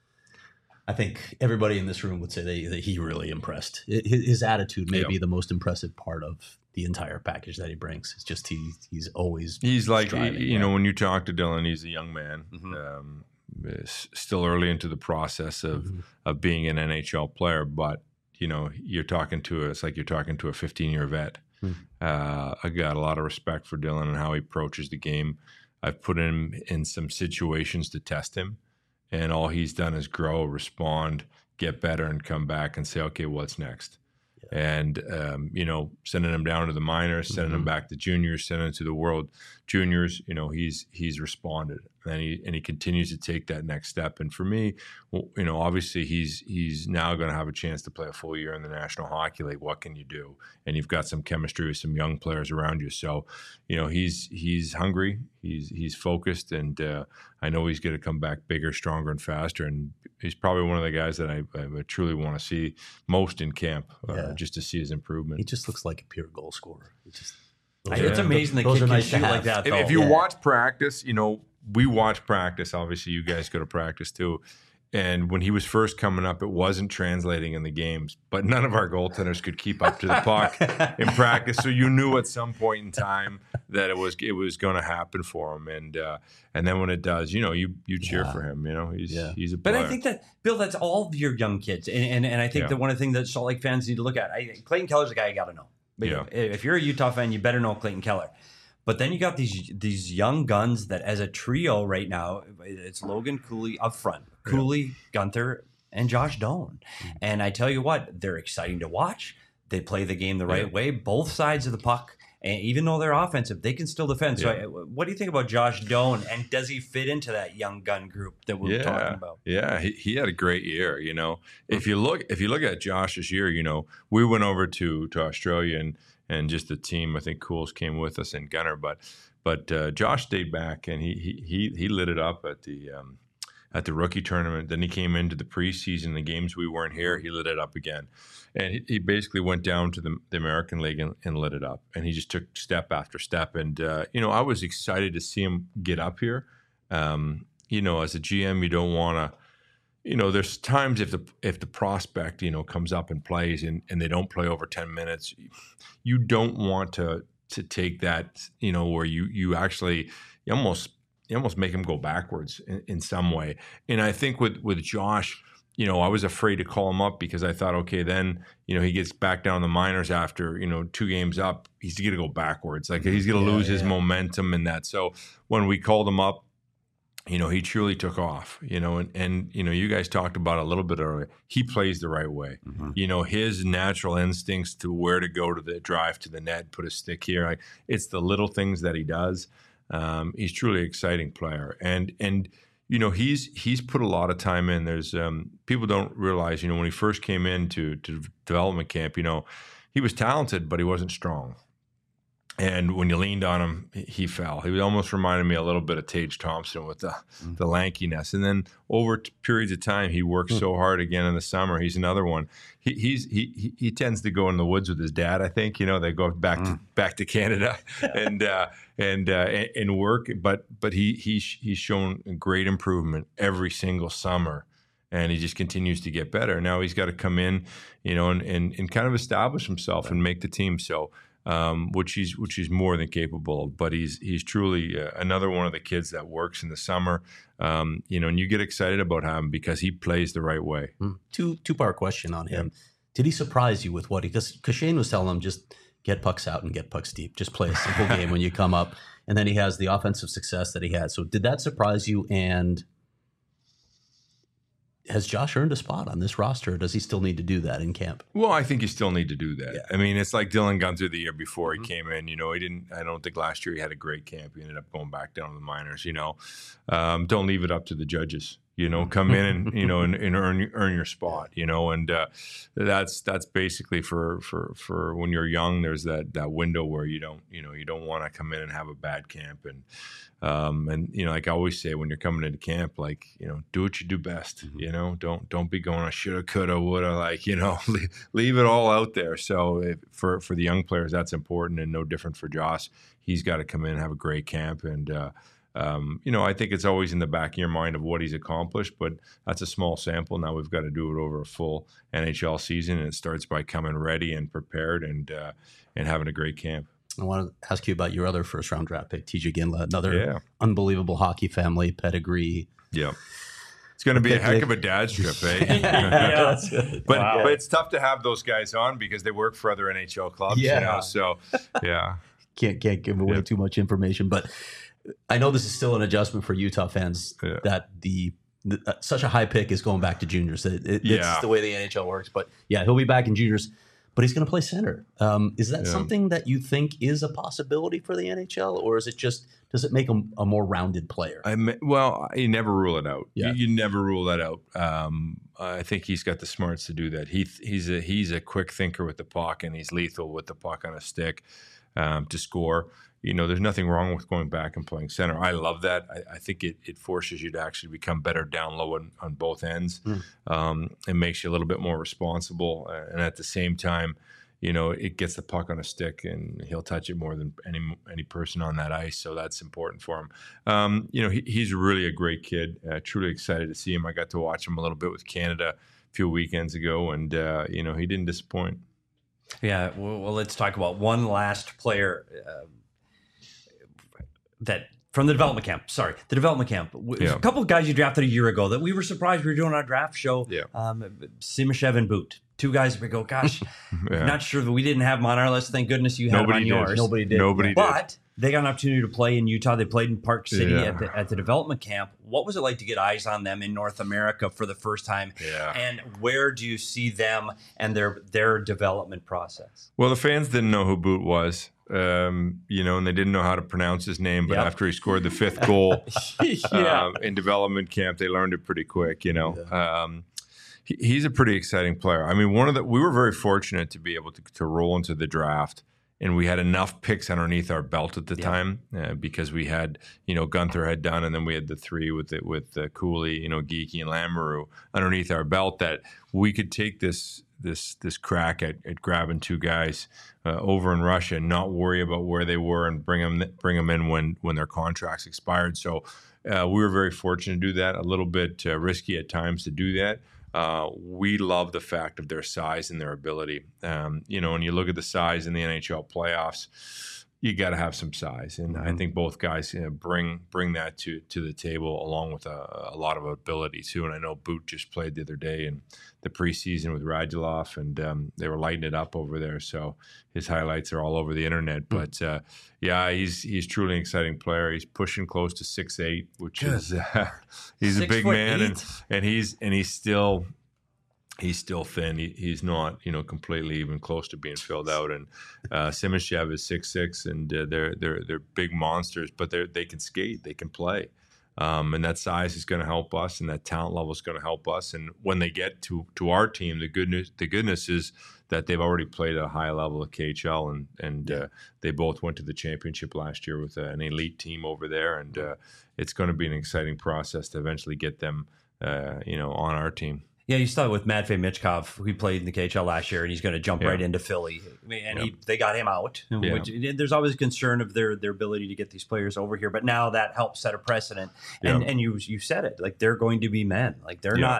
I think everybody in this room would say that, that he really impressed. His, his attitude may Yeah. be the most impressive part of the entire package that he brings. It's just he he's always He's like, striving, you yeah. know, when you talk to Dylan, he's a young man, Mhm. um, s- still early into the process of Mhm. of being an N H L player. But you know, you're talking to a, it's like you're talking to a fifteen year vet. Hmm. Uh, I got a lot of respect for Dylan and how he approaches the game. I've put him in some situations to test him, and all he's done is grow, respond, get better, and come back and say, okay, what's next? And, um, you know, sending him down to the minors, sending him Mhm. back to juniors, sending him to the world juniors, you know, he's he's responded, and he and he continues to take that next step. And for me, well, you know, obviously he's he's now going to have a chance to play a full year in the National Hockey League. What can you do? And you've got some chemistry with some young players around you. So, you know, he's he's hungry, he's he's focused, and uh, I know he's going to come back bigger, stronger, and faster. And he's probably one of the guys that I, I truly want to see most in camp, uh, Yeah. just to see his improvement. He just looks like a pure goal scorer. He just I- Yeah. It's amazing the Those kid are can nice to shoot like have. that. If, Though. if you Yeah. watch practice, you know, we watch practice. Obviously, you guys go to practice too. And when he was first coming up, it wasn't translating in the games, but none of our goaltenders could keep up to the puck in practice. So you knew at some point in time that it was it was going to happen for him. And uh, and then when it does, you know, you you cheer Yeah. for him. You know, he's Yeah. he's a But player. I think that, Bill, that's all of your young kids. And and, and I think Yeah. that one of the things that Salt Lake fans need to look at, I, Clayton Keller's a guy you got to know. Yeah. If you're a Utah fan, you better know Clayton Keller. But then you got these these young guns that as a trio right now, it's Logan Cooley up front, Cooley, Guenther, and Josh Doan. And I tell you what, they're exciting to watch. They play the game the right Yeah. way, both sides of the puck. And even though they're offensive, they can still defend. So Yeah. I, what do you think about Josh Doan? And does he fit into that young gun group that we we're talking about? Yeah, he, he had a great year. You know, if you look if you look at Josh's year, you know, we went over to to Australia and and just the team. I think Cools came with us and Gunner, but but uh, Josh stayed back and he he he he lit it up at the. Um, at the rookie tournament. Then he came into the preseason, the games we weren't here, he lit it up again. And he, he basically went down to the, the American League and, and lit it up. And he just took step after step. And, uh, you know, I was excited to see him get up here. Um, you know, as a G M, you don't want to, you know, there's times if the if the prospect, you know, comes up and plays and, and they don't play over ten minutes, you don't want to to take that, you know, where you you actually you almost you almost make him go backwards in, in some way. And I think with, with Josh, you know, I was afraid to call him up because I thought, okay, then, you know, he gets back down the minors after, you know, two games up, he's going to go backwards. Like he's going to Yeah, lose his yeah. momentum in that. So when we called him up, you know, he truly took off, you know, and, and, you know, you guys talked about it a little bit earlier. He plays the right way. Mhm. You know, his natural instincts to where to go to the drive to the net, put a stick here. Like, it's the little things that he does. Um, he's truly an exciting player, and and you know he's he's put a lot of time in. There's um, people don't realize, you know, when he first came into to development camp, you know, he was talented, but he wasn't strong. And when you leaned on him, he fell. He almost reminded me a little bit of Tage Thompson with the, Mm. the lankiness. And then over t- periods of time, he worked Mm. so hard again in the summer. He's another one. He he's he he- he tends to go in the woods with his dad. I think, you know, they go back to back to Canada and uh, and, uh, and and work. But but he he's he's shown great improvement every single summer. And he just continues to get better. Now he's got to come in, you know, and, and, and kind of establish himself and make the team. So um, which he's which he's more than capable of. But he's he's truly uh, another one of the kids that works in the summer. Um, you know, and you get excited about him because he plays the right way. Mm. Two two part question on him. Yeah. Did he surprise you with what he? Because Shane was telling him just get pucks out and get pucks deep. Just play a simple game when you come up. And then he has the offensive success that he had. So did that surprise you? And has Josh earned a spot on this roster, or does he still need to do that in camp? Well, I think you still need to do that. Yeah. I mean, it's like Dylan Gunther the year before mm-hmm. he came in. You know, he didn't. I don't think last year he had a great camp. He ended up going back down to the minors. You know, um, don't leave it up to the judges. You know, come in and you know and, and earn earn your spot. You know, and uh, that's that's basically for for for when you're young. There's that that window where you don't you know you don't want to come in and have a bad camp. And um, and you know, like I always say, when you're coming into camp, like you know, do what you do best. Mm-hmm. You know, don't don't be going I shoulda, coulda, woulda. Like you know, leave, leave it all out there. So if, for for the young players, that's important, and no different for Josh. He's got to come in and have a great camp. And uh, Um, you know, I think it's always in the back of your mind of what he's accomplished, but that's a small sample. Now we've got to do it over a full N H L season, and it starts by coming ready and prepared and uh, and having a great camp. I want to ask you about your other first-round draft pick, T J Ginla, another yeah. unbelievable hockey family pedigree. Yeah. It's going to be a heck of a dad's trip, eh? yeah, that's good. But, wow. but it's tough to have those guys on because they work for other N H L clubs. Yeah. You know? So, yeah. Can't, can't give away yeah. too much information, but I know this is still an adjustment for Utah fans yeah. that the, the uh, such a high pick is going back to juniors. It, it, yeah. It's the way the N H L works. But yeah, he'll be back in juniors, but he's going to play center. Um, is that yeah. something that you think is a possibility for the N H L, or is it just does it make him a more rounded player? I may, well, you never rule it out. Yeah. You, you never rule that out. Um, I think he's got the smarts to do that. He he's a he's a quick thinker with the puck, and he's lethal with the puck on a stick um, to score. You know, there's nothing wrong with going back and playing center. I love that. I, I think it, it forces you to actually become better down low on, on both ends. Mm. Um, it makes you a little bit more responsible. Uh, and at the same time, you know, it gets the puck on a stick and he'll touch it more than any any person on that ice. So that's important for him. Um, you know, he, he's really a great kid. Uh, truly excited to see him. I got to watch him a little bit with Canada a few weekends ago, and, uh, you know, he didn't disappoint. Yeah, well, well let's talk about one last player uh, that from the development camp. Sorry, the development camp. Yeah. A couple of guys you drafted a year ago that we were surprised we were doing our draft show. Yeah. Um, Simashev and Boot. Two guys we go, gosh, yeah. not sure that we didn't have them on our list. Thank goodness you had Nobody them on did. yours. Nobody did. Nobody but did. They got an opportunity to play in Utah. They played in Park City yeah. at, the, at the development camp. What was it like to get eyes on them in North America for the first time? Yeah. And where do you see them and their their development process? Well, the fans didn't know who Boot was. Um, you know, and they didn't know how to pronounce his name. But yep. after he scored the fifth goal yeah. um, in development camp, they learned it pretty quick. You know, yeah. um, he, he's a pretty exciting player. I mean, one of the we were very fortunate to be able to, to roll into the draft, and we had enough picks underneath our belt at the yeah. time uh, because we had, you know, Gunther had done, and then we had the three with it with uh, Cooley, you know, Geeky and Lamoureux underneath our belt that we could take this. this this crack at, at grabbing two guys uh, over in Russia and not worry about where they were and bring them bring them in when when their contracts expired. So uh, we were very fortunate to do that. A little bit uh, risky at times to do that. Uh, we love the fact of their size and their ability. Um, you know, when you look at the size in the N H L playoffs, you got to have some size, and mm-hmm. I think both guys you know, bring bring that to to the table along with a, a lot of ability too. And I know Boot just played the other day in the preseason with Radulov, and um, they were lighting it up over there. So his highlights are all over the internet. Mm-hmm. But uh, yeah, he's he's truly an exciting player. He's pushing close to six eight, which Good. is uh, he's six a big man, eight. and and he's and he's still. He's still thin. He, he's not, you know, completely even close to being filled out. And uh, Simashev is six six, and uh, they're they're they're big monsters, but they they can skate, they can play, um, and that size is going to help us, and that talent level is going to help us. And when they get to to our team, the good news the goodness is that they've already played at a high level of K H L, and and uh, they both went to the championship last year with uh, an elite team over there, and uh, it's going to be an exciting process to eventually get them, uh, you know, on our team. Yeah, you saw it with Matvei Michkov, who played in the K H L last year, and he's going to jump yeah. right into Philly. I mean, and yeah. he, they got him out. Yeah. Which, there's always concern of their their ability to get these players over here, but now that helps set a precedent. And yeah. and you you said it, like they're going to be men. Like they're yeah. not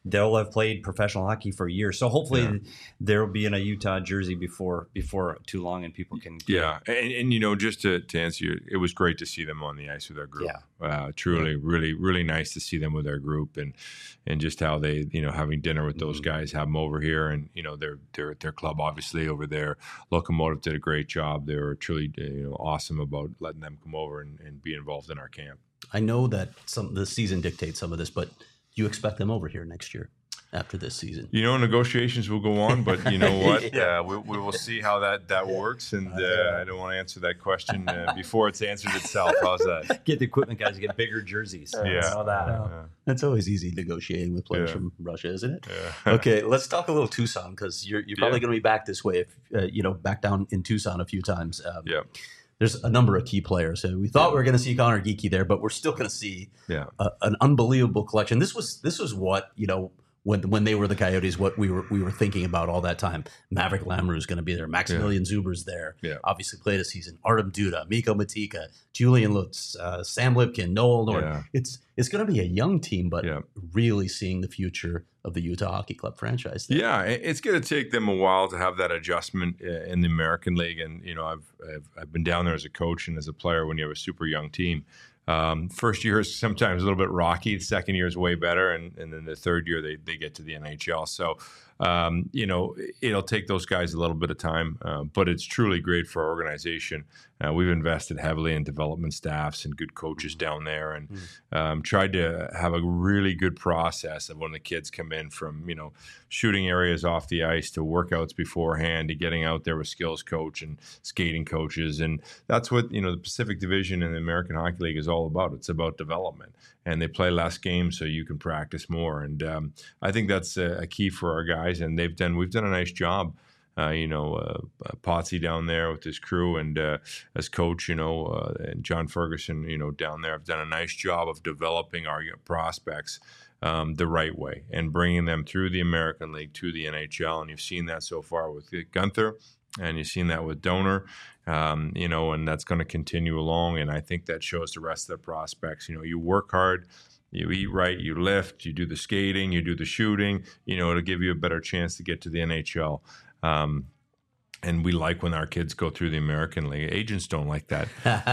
they'll have played professional hockey for years. So hopefully Yeah. there will be in a Utah jersey before before too long, and people can. Yeah, and, and you know, just to, to answer you, it was great to see them on the ice with our group. Yeah. Uh, truly, yeah. really, really nice to see them with our group, and and just how they, you know, having dinner with those mm-hmm. guys, have them over here, and you know, their their their club obviously over there. Locomotive did a great job. They were truly, you know, awesome about letting them come over and, and be involved in our camp. I know that some the season dictates some of this, but do you expect them over here next year? After this season, you know, negotiations will go on, but you know what? yeah. uh, we, we will see how that that works, and uh, I don't want to answer that question uh, before it's answered itself. How's that? Get the equipment guys to get bigger jerseys. Yeah, yeah. Know that. Uh, yeah. That's always easy negotiating with players yeah. from Russia, isn't it? Yeah. Okay, let's talk a little Tucson, because you're you're probably yeah. going to be back this way, if uh, you know, back down in Tucson a few times. Um, yeah. There's a number of key players. So we thought we were going to see Connor Geekie there, but we're still going to see yeah. a, an unbelievable collection. This was this was what, you know, when when they were the Coyotes, what we were we were thinking about all that time. Maverick Lamoureux is going to be there. Maximilian yeah. Zuber's there. Yeah. Obviously played a season. Artem Duda, Mikko Matika, Julian Lutz, uh, Sam Lipkin, Noel Nord. Yeah. It's it's going to be a young team, but yeah. really seeing the future of the Utah Hockey Club franchise there. Yeah, it's going to take them a while to have that adjustment in the American League. And, you know, I've, I've, I've been down there as a coach and as a player when you have a super young team. Um, first year is sometimes a little bit rocky. The second year is way better. And, and then the third year, they, they get to the N H L. So, um, you know, it'll take those guys a little bit of time, uh, but it's truly great for our organization. Uh, we've invested heavily in development staffs and good coaches down there, and um, tried to have a really good process of when the kids come in from, you know, shooting areas off the ice to workouts beforehand to getting out there with skills coach and skating coaches. And that's what, you know, the Pacific Division in the American Hockey League is all about. It's about development, and they play less games so you can practice more. And um, I think that's a, a key for our guys, and they've done, we've done a nice job. Uh, you know, uh, uh, Potsy down there with his crew, and uh, as coach, you know, uh, and John Ferguson, you know, down there have done a nice job of developing our prospects um, the right way and bringing them through the American League to the N H L. And you've seen that so far with Gunther, and you've seen that with Donor, um, you know, and that's going to continue along. And I think that shows the rest of the prospects. You know, you work hard, you eat right, you lift, you do the skating, you do the shooting, you know, it'll give you a better chance to get to the N H L. Um, and we like when our kids go through the American League. Agents don't like that.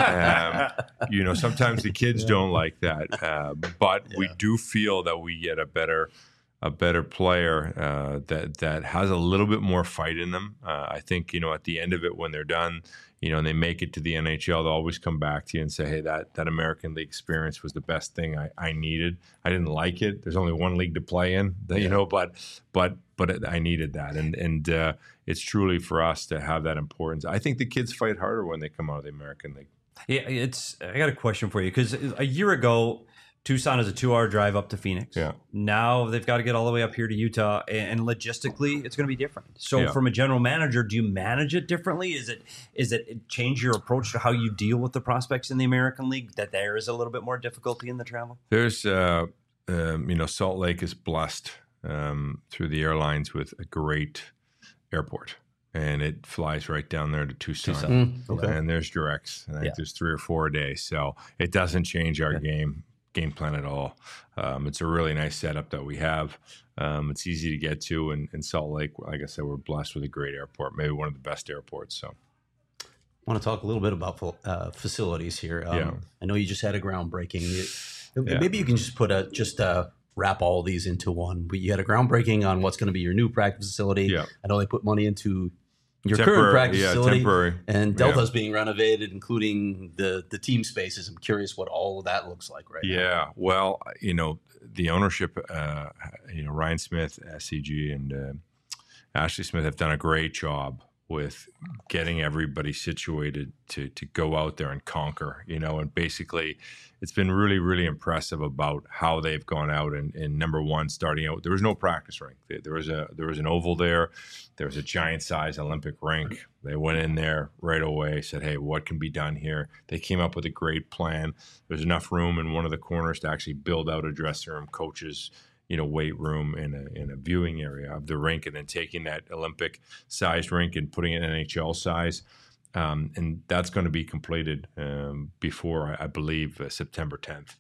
um, you know, sometimes the kids yeah. don't like that. Uh, but yeah. we do feel that we get a better a better player uh, that that has a little bit more fight in them. Uh, I think, you know, at the end of it, when they're done, you know, and they make it to the N H L, they'll always come back to you and say, hey, that that American League experience was the best thing I, I needed. I didn't like it. There's only one league to play in, you yeah. know, but but but it, I needed that. And and uh, it's truly for us to have that importance. I think the kids fight harder when they come out of the American League. Yeah, it's. I got a question for you, because a year ago, Tucson is a two-hour drive up to Phoenix. Yeah. Now they've got to get all the way up here to Utah, and logistically, it's going to be different. So, yeah. from a general manager, do you manage it differently? Is it is it change your approach to how you deal with the prospects in the American League, that there is a little bit more difficulty in the travel? There's, uh, um, you know, Salt Lake is blessed um, through the airlines with a great airport. And it flies right down there to Tucson. Tucson. Mm, okay. And there's directs. I think yeah. there's three or four a day. So it doesn't change our yeah. game game plan at all. Um, it's a really nice setup that we have. Um, it's easy to get to. And in Salt Lake, like I said, we're blessed with a great airport, maybe one of the best airports. So I want to talk a little bit about uh, facilities here. Um, yeah. I know you just had a groundbreaking. It, yeah. Maybe you can just put a just uh, wrap all these into one. But you had a groundbreaking on what's going to be your new practice facility. Yeah. I know they put money into your temporary, current practice yeah, facility, temporary. and Delta's yeah. being renovated, including the the team spaces. I'm curious what all of that looks like right yeah. now. Yeah, well, you know, the ownership, uh, you know, Ryan Smith, S C G, and uh, Ashley Smith have done a great job with getting everybody situated to to go out there and conquer, you know, and basically it's been really, really impressive about how they've gone out and, and number one, starting out, there was no practice rink. There was a there was an oval there. There was a giant size Olympic rink. They went in there right away, said, hey, what can be done here? They came up with a great plan. There's enough room in one of the corners to actually build out a dressing room, coaches, you know, weight room in a in a viewing area of the rink, and then taking that Olympic sized rink and putting it in N H L size. Um, and that's going to be completed um, before, I believe, uh, September tenth.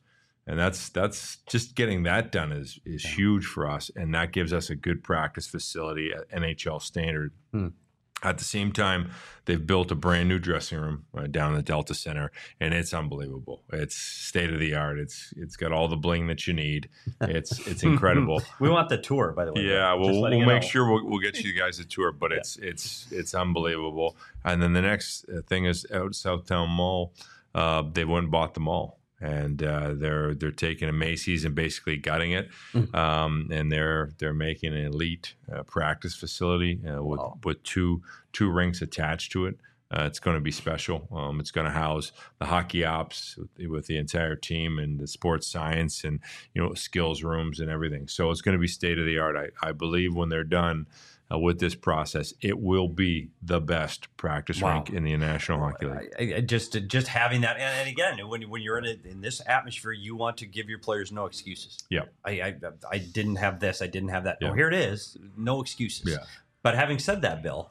And that's that's just getting that done is is yeah. huge for us, and that gives us a good practice facility at N H L standard. Hmm. At the same time, they've built a brand new dressing room uh, down in the Delta Center, and it's unbelievable. It's state of the art. It's it's got all the bling that you need. It's it's incredible. We want the tour, by the way. Yeah, well, we'll make know. sure we'll, we'll get you guys a tour, but yeah. it's it's it's unbelievable. And then the next thing is out Southtown Mall. Uh, they went and bought the mall. And uh, they're they're taking a Macy's and basically gutting it, mm-hmm. um, and they're they're making an elite uh, practice facility uh, with wow. with two two rinks attached to it. Uh, it's going to be special. Um, it's going to house the hockey ops with, with the entire team and the sports science and you know skills rooms and everything. So it's going to be state of the art. I, I believe when they're done uh, with this process, it will be the best practice wow. rink in the National Hockey League. I, I just just having that, and, and again, when when you're in a, in this atmosphere, you want to give your players no excuses. Yeah, I I, I didn't have this, I didn't have that. Yeah. Oh, here it is, no excuses. Yeah. But having said that, Bill,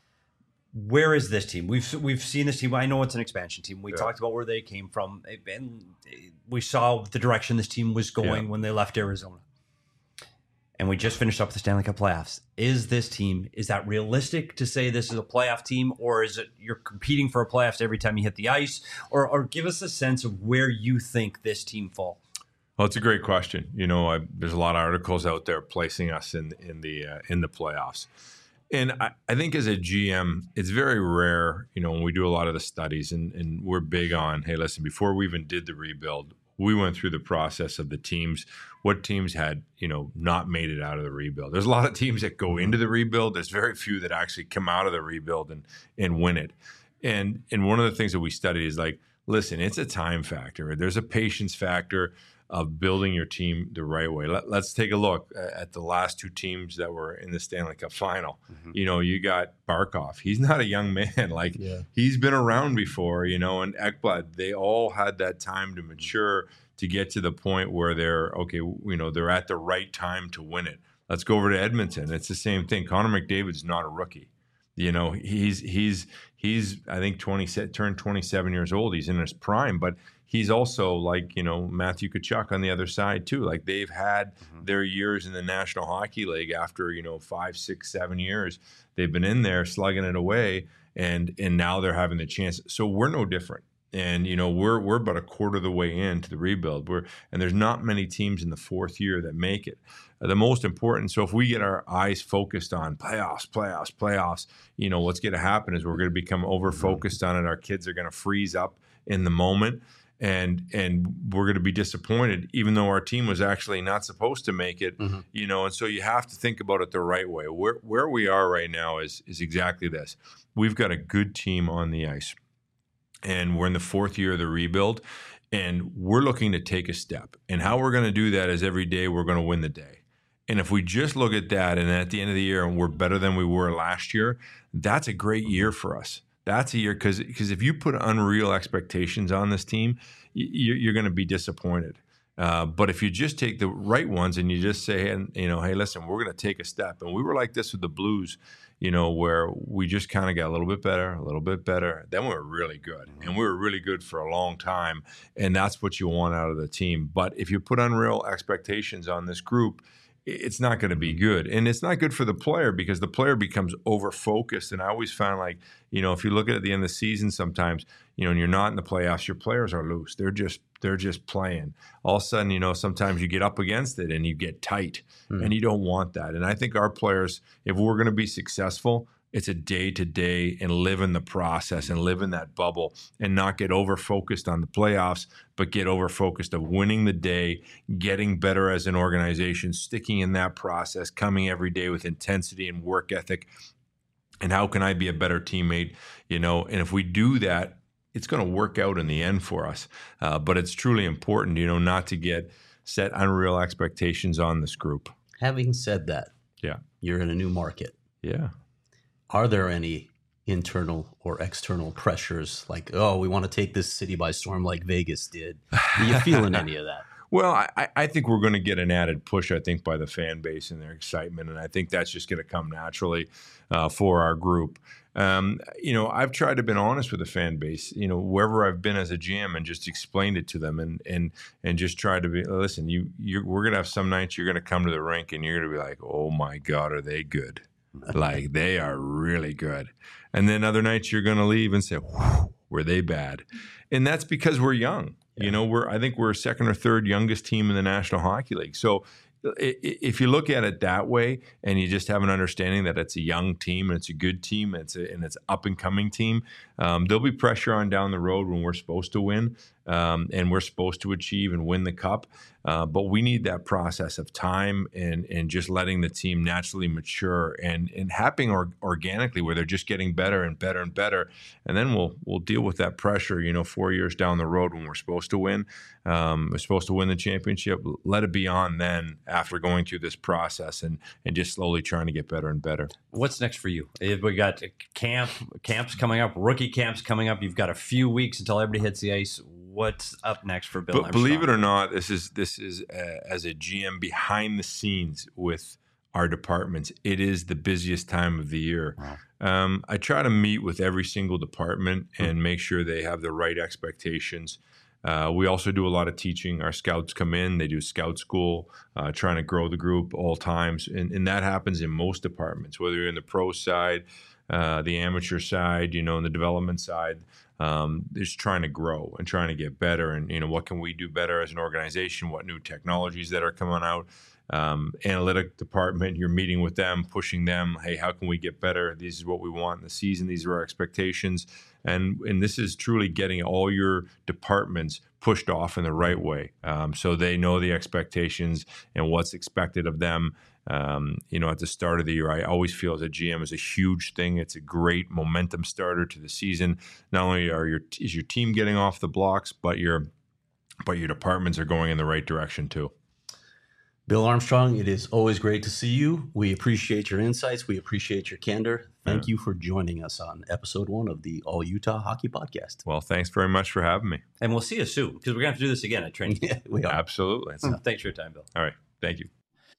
where is this team? We've we've seen this team. I know it's an expansion team. We yeah. talked about where they came from, and we saw the direction this team was going yeah. when they left Arizona. And we just finished up the Stanley Cup playoffs. Is this team, is that realistic to say this is a playoff team, or is it you're competing for a playoffs every time you hit the ice? Or, or give us a sense of where you think this team falls. Well, it's a great question. You know, I, there's a lot of articles out there placing us in in the uh, in the playoffs. And I, I think as a G M, it's very rare, you know, when we do a lot of the studies and, and we're big on, hey, listen, before we even did the rebuild, we went through the process of the teams, what teams had, you know, not made it out of the rebuild. There's a lot of teams that go into the rebuild. There's very few that actually come out of the rebuild and, and win it. And, and one of the things that we studied is like, listen, it's a time factor. There's a patience factor of building your team the right way. Let, let's take a look at the last two teams that were in the Stanley Cup final. Mm-hmm. You know, you got Barkov. He's not a young man. Like, yeah. he's been around before, you know, and Ekblad. They all had that time to mature to get to the point where they're, okay, you know, they're at the right time to win it. Let's go over to Edmonton. It's the same thing. Connor McDavid's not a rookie. You know, he's, he's, he's, I think, twenty, turned twenty-seven years old. He's in his prime, but he's also like, you know, Matthew Tkachuk on the other side too. Like, they've had mm-hmm. their years in the National Hockey League after, you know, five, six, seven years. They've been in there slugging it away, and and now they're having the chance. So we're no different. And, you know, we're we're about a quarter of the way into the rebuild. We're and there's not many teams in the fourth year that make it. Uh, the most important, so if we get our eyes focused on playoffs, playoffs, playoffs, you know, what's going to happen is we're going to become over-focused on it. Our kids are going to freeze up in the moment. And and we're going to be disappointed, even though our team was actually not supposed to make it, mm-hmm. you know. And so you have to think about it the right way. Where where we are right now is is exactly this. We've got a good team on the ice, and we're in the fourth year of the rebuild, and we're looking to take a step. And how we're going to do that is every day we're going to win the day. And if we just look at that, and at the end of the year, and we're better than we were last year, that's a great year for us. That's a year, because because if you put unreal expectations on this team, you, you're going to be disappointed. Uh, but if you just take the right ones and you just say, and you know, hey, listen, we're going to take a step. And we were like this with the Blues, you know, where we just kind of got a little bit better, a little bit better. Then we were really good, and we were really good for a long time. And that's what you want out of the team. But if you put unreal expectations on this group, it's not going to be good. And it's not good for the player, because the player becomes over-focused. And I always find, like, you know, if you look at, at the end of the season sometimes, you know, and you're not in the playoffs, your players are loose. They're just they're just playing. All of a sudden, you know, sometimes you get up against it and you get tight, mm. and you don't want that. And I think our players, if we're going to be successful, it's a day-to-day and live in the process and live in that bubble and not get over-focused on the playoffs, but get over-focused of winning the day, getting better as an organization, sticking in that process, coming every day with intensity and work ethic. And how can I be a better teammate? You know, and if we do that, it's going to work out in the end for us. Uh, but it's truly important, you know, not to get set unreal expectations on this group. Having said that, yeah, you're in a new market. Yeah. Are there any internal or external pressures like, oh, we want to take this city by storm like Vegas did? Are you feeling any of that? Well, I, I think we're going to get an added push, I think, by the fan base and their excitement. And I think that's just going to come naturally uh, for our group. Um, you know, I've tried to be honest with the fan base, you know, wherever I've been as a G M, and just explained it to them, and and and just tried to be, listen, you you we're going to have some nights you're going to come to the rink and you're going to be like, oh my God, are they good? Like, they are really good. And then other nights you're going to leave and say, were they bad? And that's because we're young. You know, we're I think we're second or third youngest team in the National Hockey League. So if you look at it that way, and you just have an understanding that it's a young team and it's a good team and it's a, and it's up and coming team, um, there'll be pressure on down the road when we're supposed to win um, and we're supposed to achieve and win the cup. Uh, but we need that process of time and and just letting the team naturally mature and and happening or, organically, where they're just getting better and better and better. And then we'll we'll deal with that pressure, you know, four years down the road when we're supposed to win. Um, we're supposed to win the championship. Let it be on then, after going through this process and and just slowly trying to get better and better. What's next for you? We got camp camps coming up, rookie camps coming up. You've got a few weeks until everybody hits the ice. What's up next for Bill But Armstrong? believe it or not, this is this is uh, as a G M behind the scenes with our departments, it is the busiest time of the year. Wow. Um, I try to meet with every single department and make sure they have the right expectations. Uh, we also do a lot of teaching. Our scouts come in, they do scout school, uh, trying to grow the group all times. And, and that happens in most departments, whether you're in the pro side, uh, the amateur side, you know, in the development side. Um, just trying to grow and trying to get better. And, you know, what can we do better as an organization? What new technologies that are coming out? Um, analytic department, you're meeting with them, pushing them. Hey, how can we get better? This is what we want in the season. These are our expectations. And and this is truly getting all your departments pushed off in the right way, um, so they know the expectations and what's expected of them. Um, you know, at the start of the year, I always feel as a G M is a huge thing. It's a great momentum starter to the season. Not only are your is your team getting off the blocks, but your but your departments are going in the right direction too. Bill Armstrong, it is always great to see you. We appreciate your insights. We appreciate your candor. Thank yeah. you for joining us on episode one of the All Utah Hockey Podcast. Well, thanks very much for having me. And we'll see you soon, because we're going to have to do this again at training. Yeah, we are. Absolutely. So thanks for your time, Bill. All right. Thank you.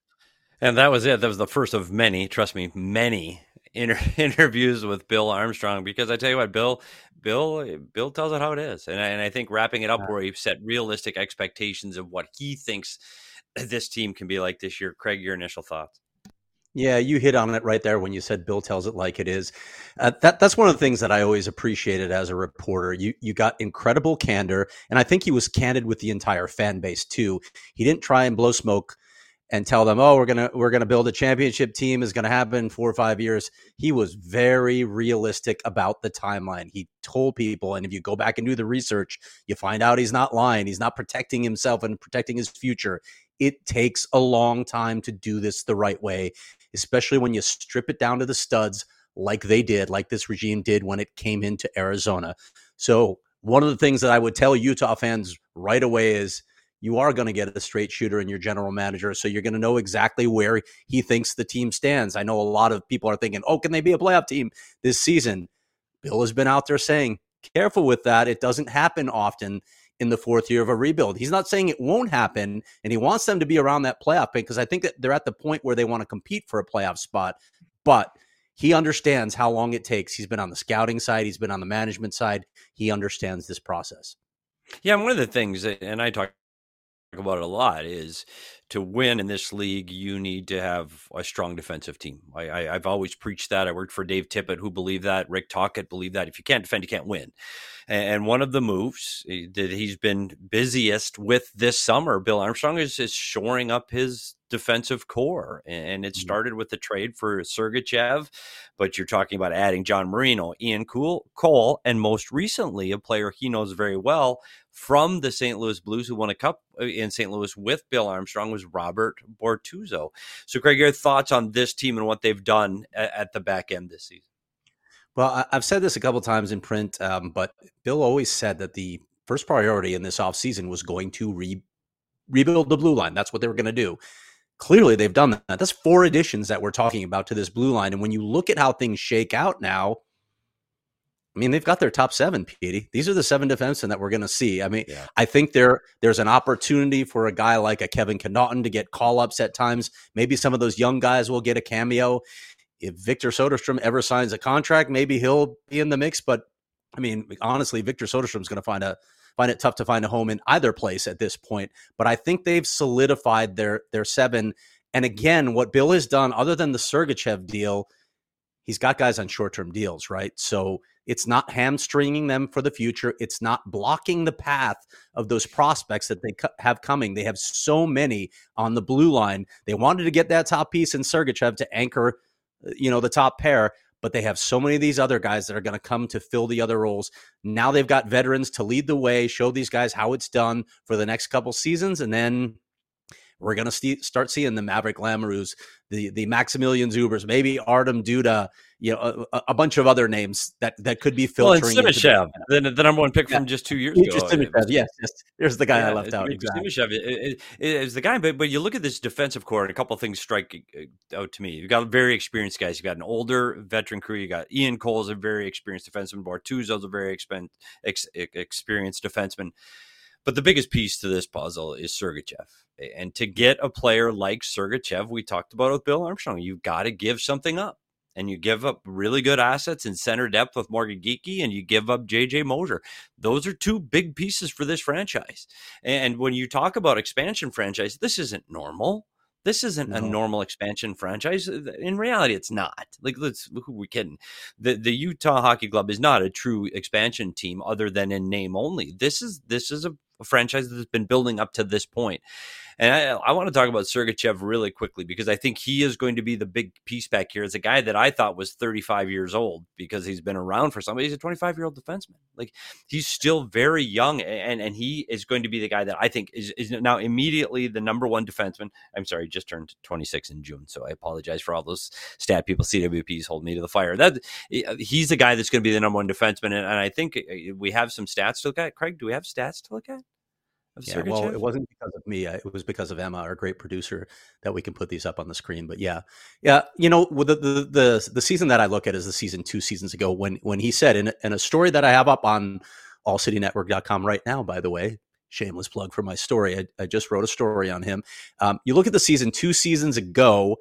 And that was it. That was the first of many, trust me, many inter- interviews with Bill Armstrong, because I tell you what, Bill, Bill, Bill tells it how it is. And I, and I think wrapping it up yeah. where he set realistic expectations of what he thinks this team can be like this year. Craig, your initial thoughts? Yeah, you hit on it right there when you said Bill tells it like it is. Uh, that that's one of the things that I always appreciated as a reporter. You you got incredible candor, and I think he was candid with the entire fan base too. He didn't try and blow smoke and tell them, "Oh, we're gonna we're gonna build a championship team is gonna happen in four or five years." He was very realistic about the timeline. He told people, and if you go back and do the research, you find out he's not lying. He's not protecting himself and protecting his future. It takes a long time to do this the right way, especially when you strip it down to the studs like they did, like this regime did when it came into Arizona. So one of the things that I would tell Utah fans right away is you are going to get a straight shooter in your general manager, so you're going to know exactly where he thinks the team stands. I know a lot of people are thinking, oh, can they be a playoff team this season? Bill has been out there saying, careful with that. It doesn't happen often in the fourth year of a rebuild. He's not saying it won't happen, and he wants them to be around that playoff pick, because I think that they're at the point where they want to compete for a playoff spot. But he understands how long it takes. He's been on the scouting side. He's been on the management side. He understands this process. Yeah, and one of the things, and I talk about it a lot, is to win in this league, you need to have a strong defensive team. I, I, I've always preached that. I worked for Dave Tippett, who believed that. Rick Tocchet believed that. If you can't defend, you can't win. And one of the moves that he's been busiest with this summer, Bill Armstrong, is, is shoring up his defensive core. And it started with the trade for Sergachev, but you're talking about adding John Marino, Ian Cole, and most recently, a player he knows very well from the Saint Louis Blues, who won a cup in Saint Louis with Bill Armstrong, was Robert Bortuzzo. So, Craig, your thoughts on this team and what they've done at, at the back end this season? Well, I've said this a couple times in print, um, but Bill always said that the first priority in this offseason was going to re- rebuild the blue line. That's what they were going to do. Clearly, they've done that. That's four additions that we're talking about to this blue line. And when you look at how things shake out now, I mean, they've got their top seven, Petey. These are the seven defensemen that we're going to see. I mean, Yeah. I think there there's an opportunity for a guy like a Kevin Connaughton to get call-ups at times. Maybe some of those young guys will get a cameo. If Victor Soderstrom ever signs a contract, maybe he'll be in the mix. But, I mean, honestly, Victor Soderstrom's going to find a find it tough to find a home in either place at this point. But I think they've solidified their their seven. And again, what Bill has done, other than the Sergachev deal, he's got guys on short-term deals, right? So it's not hamstringing them for the future. It's not blocking the path of those prospects that they co- have coming. They have so many on the blue line. They wanted to get that top piece in Sergachev to anchor, you know, the top pair, but they have so many of these other guys that are going to come to fill the other roles. Now they've got veterans to lead the way, show these guys how it's done for the next couple seasons, and then we're going to st- start seeing the Maverick Lamoureux, the the Maximilian Zubers, maybe Artem Duda, you know, a, a bunch of other names that, that could be filtering. Well, and Simashev, the, the number one pick yeah. from just two years Dmitry ago. Simashev, yes, yes. There's the guy yeah, I left out. Dmitry Exactly. Simashev is the guy, but but you look at this defensive core, and a couple of things strike out to me. You've got very experienced guys. You've got an older veteran crew. You got Ian Cole's a very experienced defenseman. Bortuzzo's a very expen- ex- experienced defenseman. But the biggest piece to this puzzle is Sergachev. And to get a player like Sergachev, we talked about with Bill Armstrong, you've got to give something up. And you give up really good assets in center depth with Morgan Geekie, and you give up J J Mosier. Those are two big pieces for this franchise. And when you talk about expansion franchise, this isn't normal. This isn't no. a normal expansion franchise. In reality, it's not. Like, let's who are we kidding? The the Utah Hockey Club is not a true expansion team, other than in name only. This is this is a, a franchise that's been building up to this point. And I, I want to talk about Sergachev really quickly, because I think he is going to be the big piece back here. It's a guy that I thought was thirty-five years old because he's been around for somebody. He's a twenty-five-year-old defenseman. Like, he's still very young, and, and he is going to be the guy that I think is, is now immediately the number one defenseman. I'm sorry, just turned twenty-six in June, so I apologize for all those stat people. C W Ps hold me to the fire. That he's the guy that's going to be the number one defenseman, and, and I think we have some stats to look at. Craig, do we have stats to look at? Yeah, well, it wasn't because of me. It was because of Emma, our great producer, that we can put these up on the screen. But yeah, yeah, you know, the the the, the season that I look at is the season two seasons ago when when he said in, in a story that I have up on all city network dot com right now, by the way, shameless plug for my story. I, I just wrote a story on him. Um, you look at the season two seasons ago,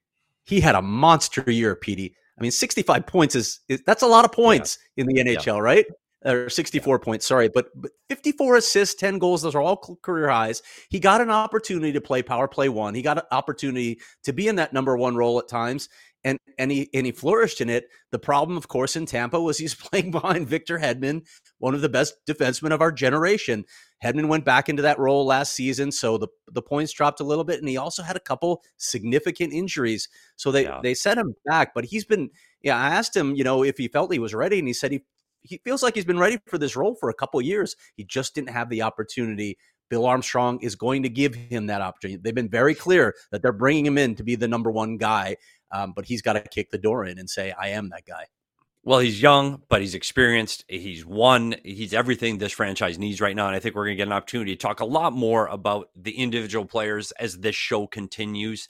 he had a monster year, Petey. I mean, sixty-five points is, is that's a lot of points yeah. in the N H L, yeah. right? Or sixty-four yeah. points, sorry, but, but fifty-four assists, ten goals, those are all career highs. He got an opportunity to play power play one. He got an opportunity to be in that number one role at times, and and he and he flourished in it. The problem, of course, in Tampa was he's playing behind Victor Hedman, one of the best defensemen of our generation. Hedman went back into that role last season, so the, the points dropped a little bit, and he also had a couple significant injuries. So they, yeah. they set him back, but he's been, yeah, I asked him, you know, if he felt he was ready, and he said he He feels like he's been ready for this role for a couple of years. He just didn't have the opportunity. Bill Armstrong is going to give him that opportunity. They've been very clear that they're bringing him in to be the number one guy, um, but he's got to kick the door in and say, I am that guy. Well, he's young, but he's experienced. He's won. He's everything this franchise needs right now. And I think we're going to get an opportunity to talk a lot more about the individual players as this show continues.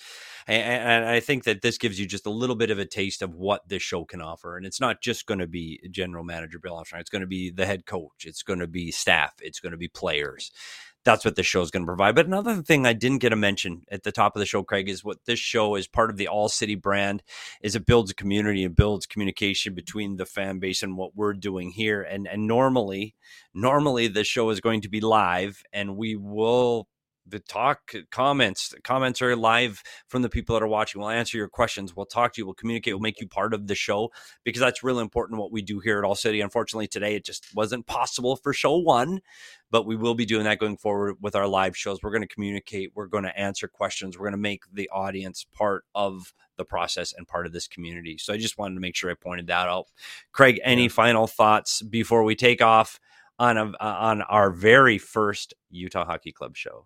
And I think that this gives you just a little bit of a taste of what this show can offer. And it's not just going to be general manager Bill Armstrong. It's going to be the head coach. It's going to be staff. It's going to be players. That's what this show is going to provide. But another thing I didn't get to mention at the top of the show, Craig, is what this show is part of the All City brand is it builds a community and builds communication between the fan base and what we're doing here. And, and normally, normally the show is going to be live, and we will the talk comments comments are live from the people that are watching. We'll answer your questions. We'll talk to you. We'll communicate. We'll make you part of the show, because that's really important what we do here at All City. Unfortunately, today it just wasn't possible for show one, but we will be doing that going forward with our live shows. We're going to communicate. We're going to answer questions. We're going to make the audience part of the process and part of this community. So I just wanted to make sure I pointed that out. Craig, any yeah. final thoughts before we take off on a, on our very first Utah Hockey Club show?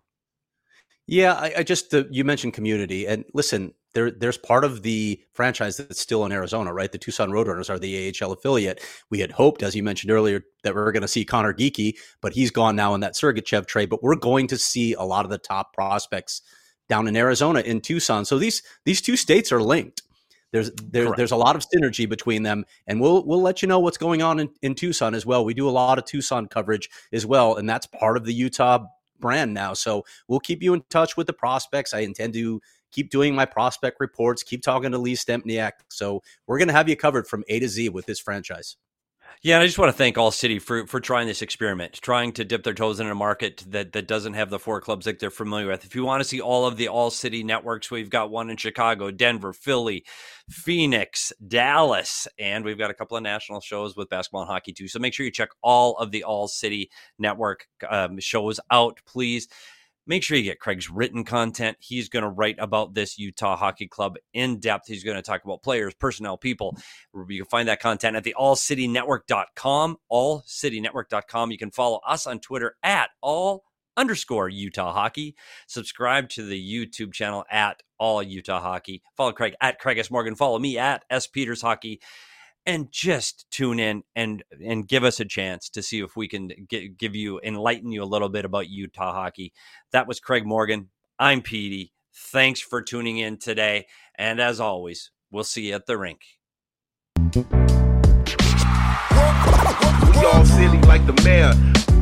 Yeah, I, I just, uh, you mentioned community, and listen, there, there's part of the franchise that's still in Arizona, right? The Tucson Roadrunners are the A H L affiliate. We had hoped, as you mentioned earlier, that we were going to see Connor Geekie, but he's gone now in that Sergachev trade, but we're going to see a lot of the top prospects down in Arizona, in Tucson. So these, these two states are linked. There's there, there's a lot of synergy between them, and we'll we'll let you know what's going on in, in Tucson as well. We do a lot of Tucson coverage as well, and that's part of the Utah brand now. So we'll keep you in touch with the prospects. I intend to keep doing my prospect reports, keep talking to Lee Stempniak. So we're going to have you covered from A to Z with this franchise. Yeah, and I just want to thank All City for for trying this experiment, trying to dip their toes in a market that, that doesn't have the four clubs that they're familiar with. If you want to see all of the All City networks, we've got one in Chicago, Denver, Philly, Phoenix, Dallas, and we've got a couple of national shows with basketball and hockey too. So make sure you check all of the All City network um, shows out, please. Make sure you get Craig's written content. He's going to write about this Utah Hockey Club in depth. He's going to talk about players, personnel, people. You can find that content at the all city network dot com, all city network dot com. You can follow us on Twitter at all underscore Utah Hockey. Subscribe to the YouTube channel at All Utah Hockey. Follow Craig at Craig S. Morgan. Follow me at S. Peters Hockey. And just tune in and and give us a chance to see if we can get, give you, enlighten you a little bit about Utah hockey. That was Craig Morgan. I'm Petey. Thanks for tuning in today. And as always, we'll see you at the rink. We all silly like the mayor.